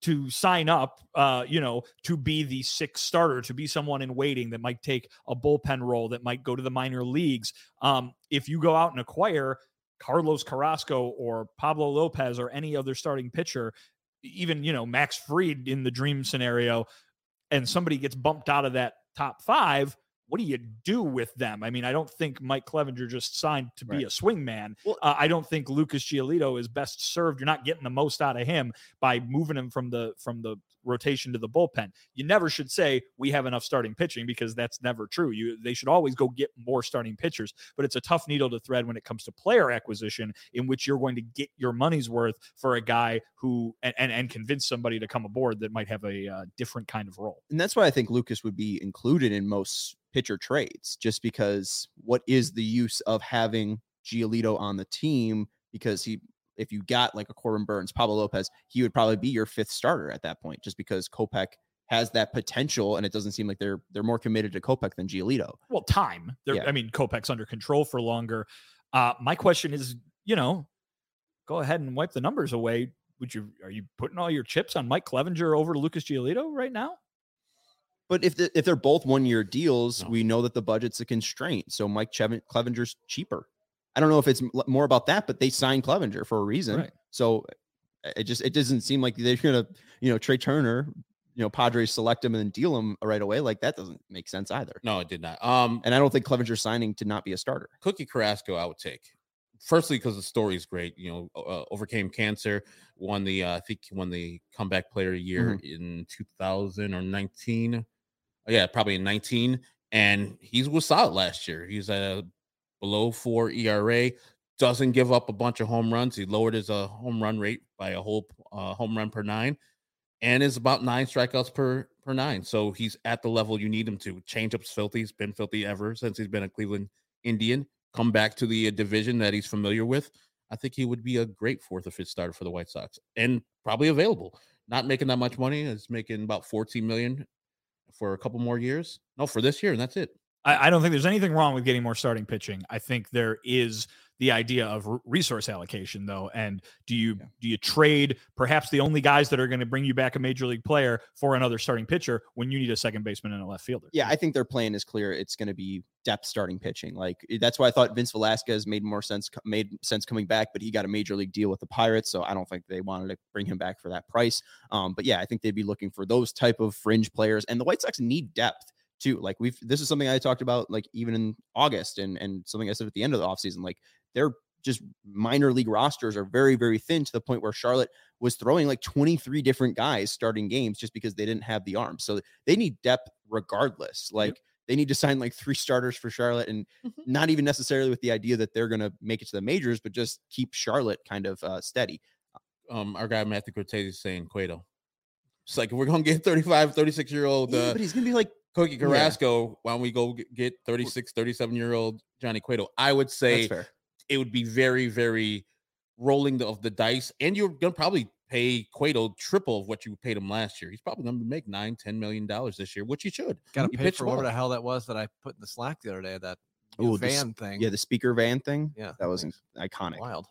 to sign up, to be the sixth starter, to be someone in waiting that might take a bullpen role, that might go to the minor leagues. If you go out and acquire Carlos Carrasco or Pablo Lopez or any other starting pitcher, even, Max Fried in the dream scenario, and somebody gets bumped out of that top 5, what do you do with them? I mean, I don't think Mike Clevenger just signed to be a swingman. Well, I don't think Lucas Giolito is best served. You're not getting the most out of him by moving him from the rotation to the bullpen. You never should say we have enough starting pitching, because that's never true. They should always go get more starting pitchers, but it's a tough needle to thread when it comes to player acquisition, in which you're going to get your money's worth for a guy who and convince somebody to come aboard that might have a different kind of role. And that's why I think Lucas would be included in most pitcher trades, just because what is the use of having Giolito on the team? Because if you got like a Corbin Burns, Pablo Lopez, he would probably be your 5th starter at that point, just because Kopech has that potential, and it doesn't seem like they're more committed to Kopech than Giolito. Well, time. I mean, Kopech's under control for longer. My question is, go ahead and wipe the numbers away. Are you putting all your chips on Mike Clevenger over Lucas Giolito right now? But if they're both 1-year deals, we know that the budget's a constraint. So Mike Clevenger's cheaper. I don't know if it's more about that, but they signed Clevenger for a reason. Right. So it doesn't seem like they're going to, Trey Turner, Padres select him and then deal him right away. Like, that doesn't make sense either. No, it did not. And I don't think Clevenger's signing to not be a starter. Cookie Carrasco, I would take. Firstly, because the story is great. Overcame cancer, won the comeback player of the year in 2019. Yeah, probably in 19. And he was solid last year. He's at a below 4 ERA, doesn't give up a bunch of home runs. He lowered his home run rate by a whole home run per 9, and is about 9 strikeouts per 9. So he's at the level you need him to. Changeup's filthy. He's been filthy ever since he's been a Cleveland Indian. Come back to the division that he's familiar with. I think he would be a great 4th or 5th starter for the White Sox, and probably available. Not making that much money. It's making about $14 million for a couple more years. No, for this year, and that's it. I don't think there's anything wrong with getting more starting pitching. I think there is the idea of resource allocation, though. And do you trade perhaps the only guys that are going to bring you back a major league player for another starting pitcher when you need a second baseman and a left fielder? Yeah, I think their plan is clear. It's going to be depth starting pitching. Like, that's why I thought Vince Velasquez made sense coming back, but he got a major league deal with the Pirates, so I don't think they wanted to bring him back for that price. But yeah, I think they'd be looking for those type of fringe players, and the White Sox need depth too. Like, this is something I talked about, like, even in August, and something I said at the end of the offseason. Like, they're just minor league rosters are very, very thin, to the point where Charlotte was throwing like 23 different guys starting games just because they didn't have the arms. So they need depth regardless. Like, they need to sign like 3 starters for Charlotte, and not even necessarily with the idea that they're going to make it to the majors, but just keep Charlotte kind of steady. Our guy Matthew Cortez is saying Cueto. It's like, if we're going to get 35, 36-year-old but he's going to be like Cookie Carrasco, why don't we go get 36, 37-year-old Johnny Cueto? I would say it would be very, very rolling of the dice, and you're going to probably pay Cueto triple of what you paid him last year. He's probably going to make $9-10 million this year, which he should. Got to pay for whatever the hell that was that I put in the Slack the other day, that van thing. Yeah, the speaker van thing. Yeah, that was iconic. Wild.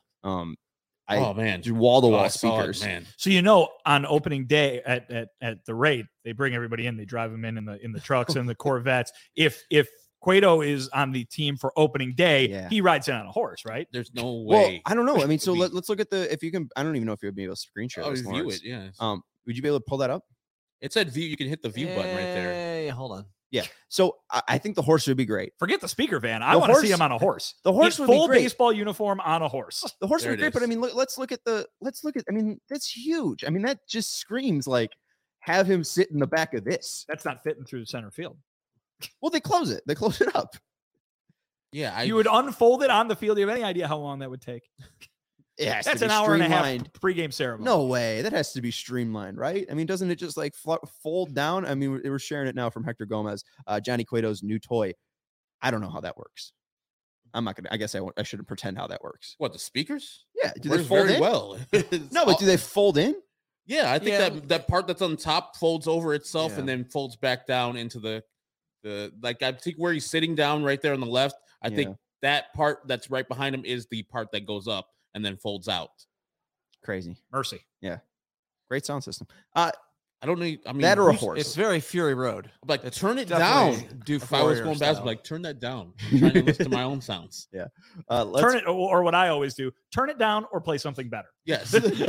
Oh man, wall-to-wall speakers. Man. So on opening day at the rate, they bring everybody in. They drive them in the trucks and the Corvettes. If Cueto is on the team for opening day, he rides in on a horse, right? There's no way. Well, I don't know. I mean, so let's look at if you can. I don't even know if you'll be able to screen share. Oh, view it. Yeah. Would you be able to pull that up? It said view. You can hit the view button right there. Hey, hold on. Yeah. So I think the horse would be great. Forget the speaker van. I want to see him on a horse. The horse would full be great. baseball uniform on a horse. The horse would be great, but I mean, let's look at. I mean, that's huge. I mean, that just screams like, have him sit in the back of this. That's not fitting through the center field. Well, they close it. They close it up. Yeah, you would unfold it on the field. Do you have any idea how long that would take? Yeah, that's an hour and a half pregame ceremony. No way. That has to be streamlined, right? I mean, doesn't it just like fold down? I mean, we're sharing it now from Hector Gomez, Johnny Cueto's new toy. I don't know how that works. I'm not gonna. I guess I shouldn't pretend how that works. What, the speakers? Yeah, do they fold in? Well. No, but do they fold in? Yeah, I think that part that's on top folds over itself and then folds back down into the like. I think where he's sitting down right there on the left. I think that part that's right behind him is the part that goes up and then folds out. Crazy. Mercy. Yeah. Great sound system. I don't know. I mean, That or a Bruce- horse. It's very Fury Road. Like, It's turn it definitely down. Do If I was Fourier going style. basketball, like, turn that down. I'm trying to listen to my own sounds. Let's Turn it, or what I always do, turn it down or play something better. Yes.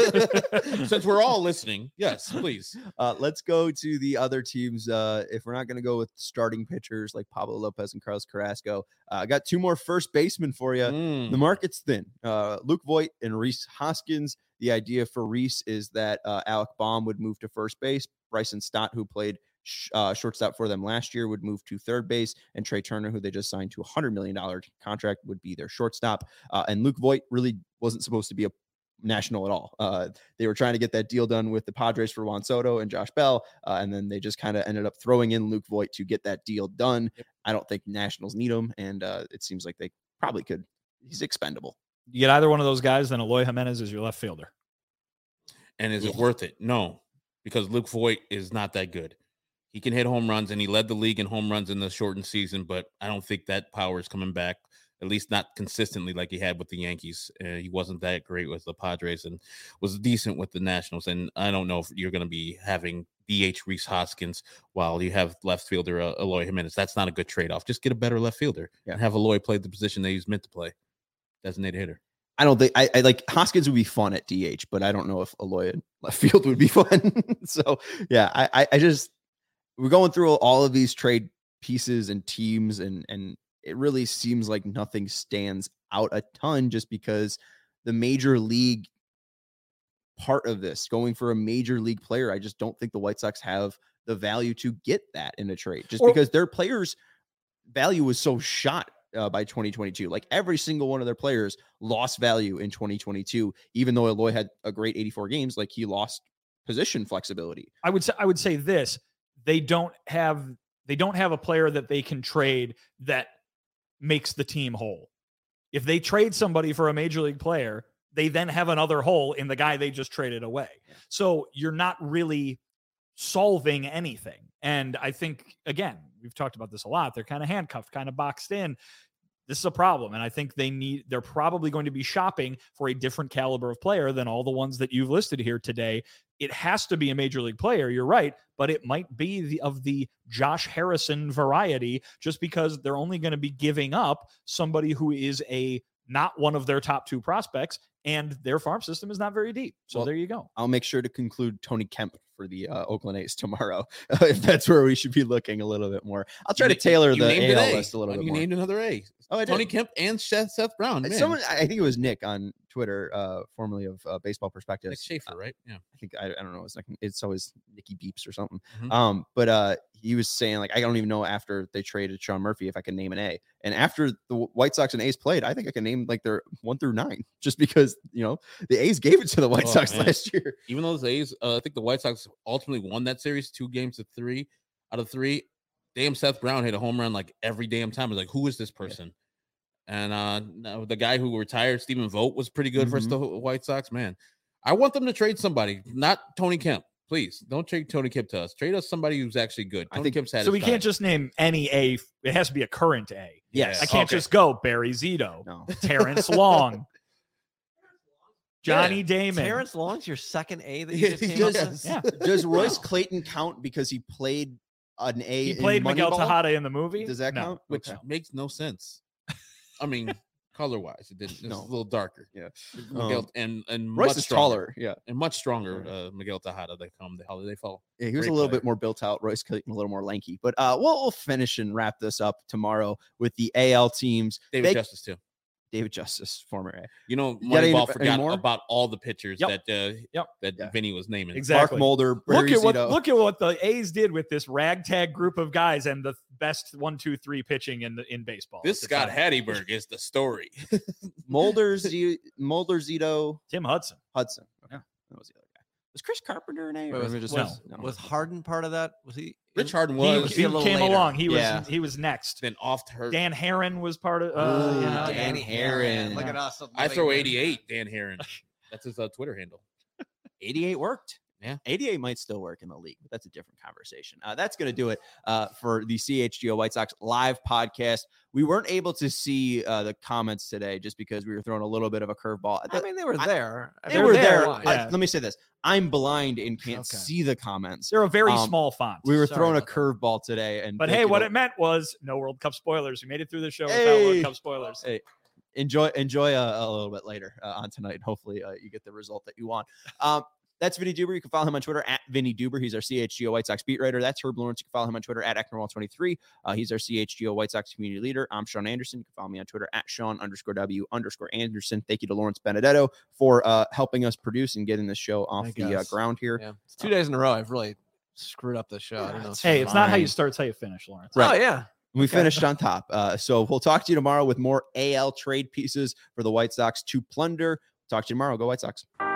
Since we're all listening, yes, please. Let's go to the other teams. If we're not going to go with starting pitchers like Pablo Lopez and Carlos Carrasco, I got two more first basemen for you. Mm. The market's thin. Luke Voigt and Rhys Hoskins. The idea for Rhys is that Alec Baum would move to first base. Bryson Stott, who played shortstop for them last year, would move to third base, and Trey Turner, who they just signed to a $100 million contract, would be their shortstop. And Luke Voigt really wasn't supposed to be a national at all. They were trying to get that deal done with the Padres for Juan Soto and Josh Bell, and then they just kind of ended up throwing in Luke Voigt to get that deal done. Yep. I don't think Nationals need him, and it seems like they probably could. He's expendable. You get either one of those guys, then Eloy Jimenez is your left fielder. And is it worth it? No, because Luke Voigt is not that good. He can hit home runs, and he led the league in home runs in the shortened season, but I don't think that power is coming back, at least not consistently like he had with the Yankees. He wasn't that great with the Padres and was decent with the Nationals. And I don't know if you're going to be having DH Rhys Hoskins while you have left fielder Eloy Jimenez. That's not a good trade-off. Just get a better left fielder and have Eloy play the position that he's meant to play, designated hitter. I don't think I like Hoskins would be fun at DH, but I don't know if Eloy in left field would be fun. So yeah, I just, we're going through all of these trade pieces and teams, and it really seems like nothing stands out a ton, just because the major league part of this, going for a major league player, I just don't think the White Sox have the value to get that in a trade, just because their players' value was so shot by 2022. Like every single one of their players lost value in 2022, even though Eloy had a great 84 games. Like he lost position flexibility. I would say this: they don't have a player that they can trade that makes the team whole. If they trade somebody for a major league player, they then have another hole in the guy they just traded away. Yeah. So you're not really solving anything. And I think, again, we've talked about this a lot. They're kind of handcuffed, kind of boxed in. This is a problem. And I think they're probably going to be shopping for a different caliber of player than all the ones that you've listed here today. It has to be a major league player. You're right. But it might be of the Josh Harrison variety, just because they're only going to be giving up somebody who is not one of their top two prospects, and their farm system is not very deep. So Well, there you go. I'll make sure to conclude Tony Kemp for the Oakland A's tomorrow, if that's where we should be looking a little bit more. I'll try to tailor the AL list a little bit You more. named another A. Oh, I Tony did. Kemp and Seth Brown. Man. Someone, I think it was Nick on Twitter, formerly of Baseball Perspectives. Nick Schaefer, right? Yeah. I think I don't know. It's always Nicky Beeps or something. Mhm. But he was saying, like, I don't even know after they traded Sean Murphy if I can name an A. And after the White Sox and A's played, I think I can name like their 1 through 9, just because the A's gave it to the White Sox man. last year. Even though the A's, I think the White Sox ultimately won that series 2 games to 3 out of 3. Damn, Seth Brown hit a home run like every damn time. I was like, who is this person? And the guy who retired, Stephen Vogt, was pretty good for the White Sox. Man, I want them to trade somebody, not Tony Kemp. Please don't trade Tony Kemp to us. Trade us somebody who's actually good. Tony Kemp's had So his we time. can't just name any A. It has to be a current A. Yes. I can't Okay. just go Barry Zito, No. Terrence Long, Johnny Damon. Terrence Long's your second A that you just came up with? Yeah. Does Royce Wow. Clayton count because he played an A? He played in Miguel Moneyball? Tejada in the movie. Does that No. count? which Okay. makes no sense. I mean, color wise, it didn't. It's No. a little darker. Yeah. Miguel, and Royce much is stronger, taller. Yeah. and much stronger. Miguel Tejada, they come the holiday fall. Yeah, he was Great a little player. bit more built out. Royce Clayton a little more lanky. But we'll finish and wrap this up tomorrow with the AL teams. David They- Justice too. David Justice, former A. You know, got any Moneyball forgot more? about all the pitchers Yep. that Yeah. Vinny was naming. Exactly. Mark Mulder, Look Barry at Zito. what the A's did with this ragtag group of guys and the best 1, 2, 3 pitching in baseball. This at the Scott time. Hatteberg is the story. Mulder, Zito, Tim Hudson. Hudson. Okay. Yeah. That was the other guy. Was Chris Carpenter an A? Wait, or was, we just was, no? was Harden part of that? Was he? Rich Harden He, was. he a little came later. along. Yeah. He was next. then off to her. Dan Heron was part of. Ooh, yeah. Dan Heron. Look at us. I throw 88. Dan Heron. That's his Twitter handle. 88 worked. Yeah. ADA might still work in the league, but that's a different conversation. That's going to do it for the CHGO White Sox live podcast. We weren't able to see the comments today just because we were throwing a little bit of a curveball. I mean, they were there. They were there. Why? Yeah. Let me say this. I'm blind and can't Okay. see the comments. They're a very Um, small font. We were Sorry throwing a about that. curveball today. But hey, what it meant was no World Cup spoilers. We made it through the show without Hey. World Cup spoilers. Hey, enjoy a little bit later on tonight. Hopefully you get the result that you want. That's Vinny Duber. You can follow him on Twitter at Vinny Duber. He's our CHGO White Sox beat writer. That's Herb Lawrence. You can follow him on Twitter at Ecknerwall23. He's our CHGO White Sox community leader. I'm Sean Anderson. You can follow me on Twitter at Sean_W_Anderson. Thank you to Lawrence Benedetto for helping us produce and getting the show off Thank the us. ground here. Yeah. It's 2 days in a row. I've really screwed up the show. I don't know. it's Hey, it's not how you fine. start, it's how you finish, Lawrence. Right. Oh, yeah. We Okay. finished on top. So we'll talk to you tomorrow with more AL trade pieces for the White Sox to plunder. Talk to you tomorrow. Go White Sox.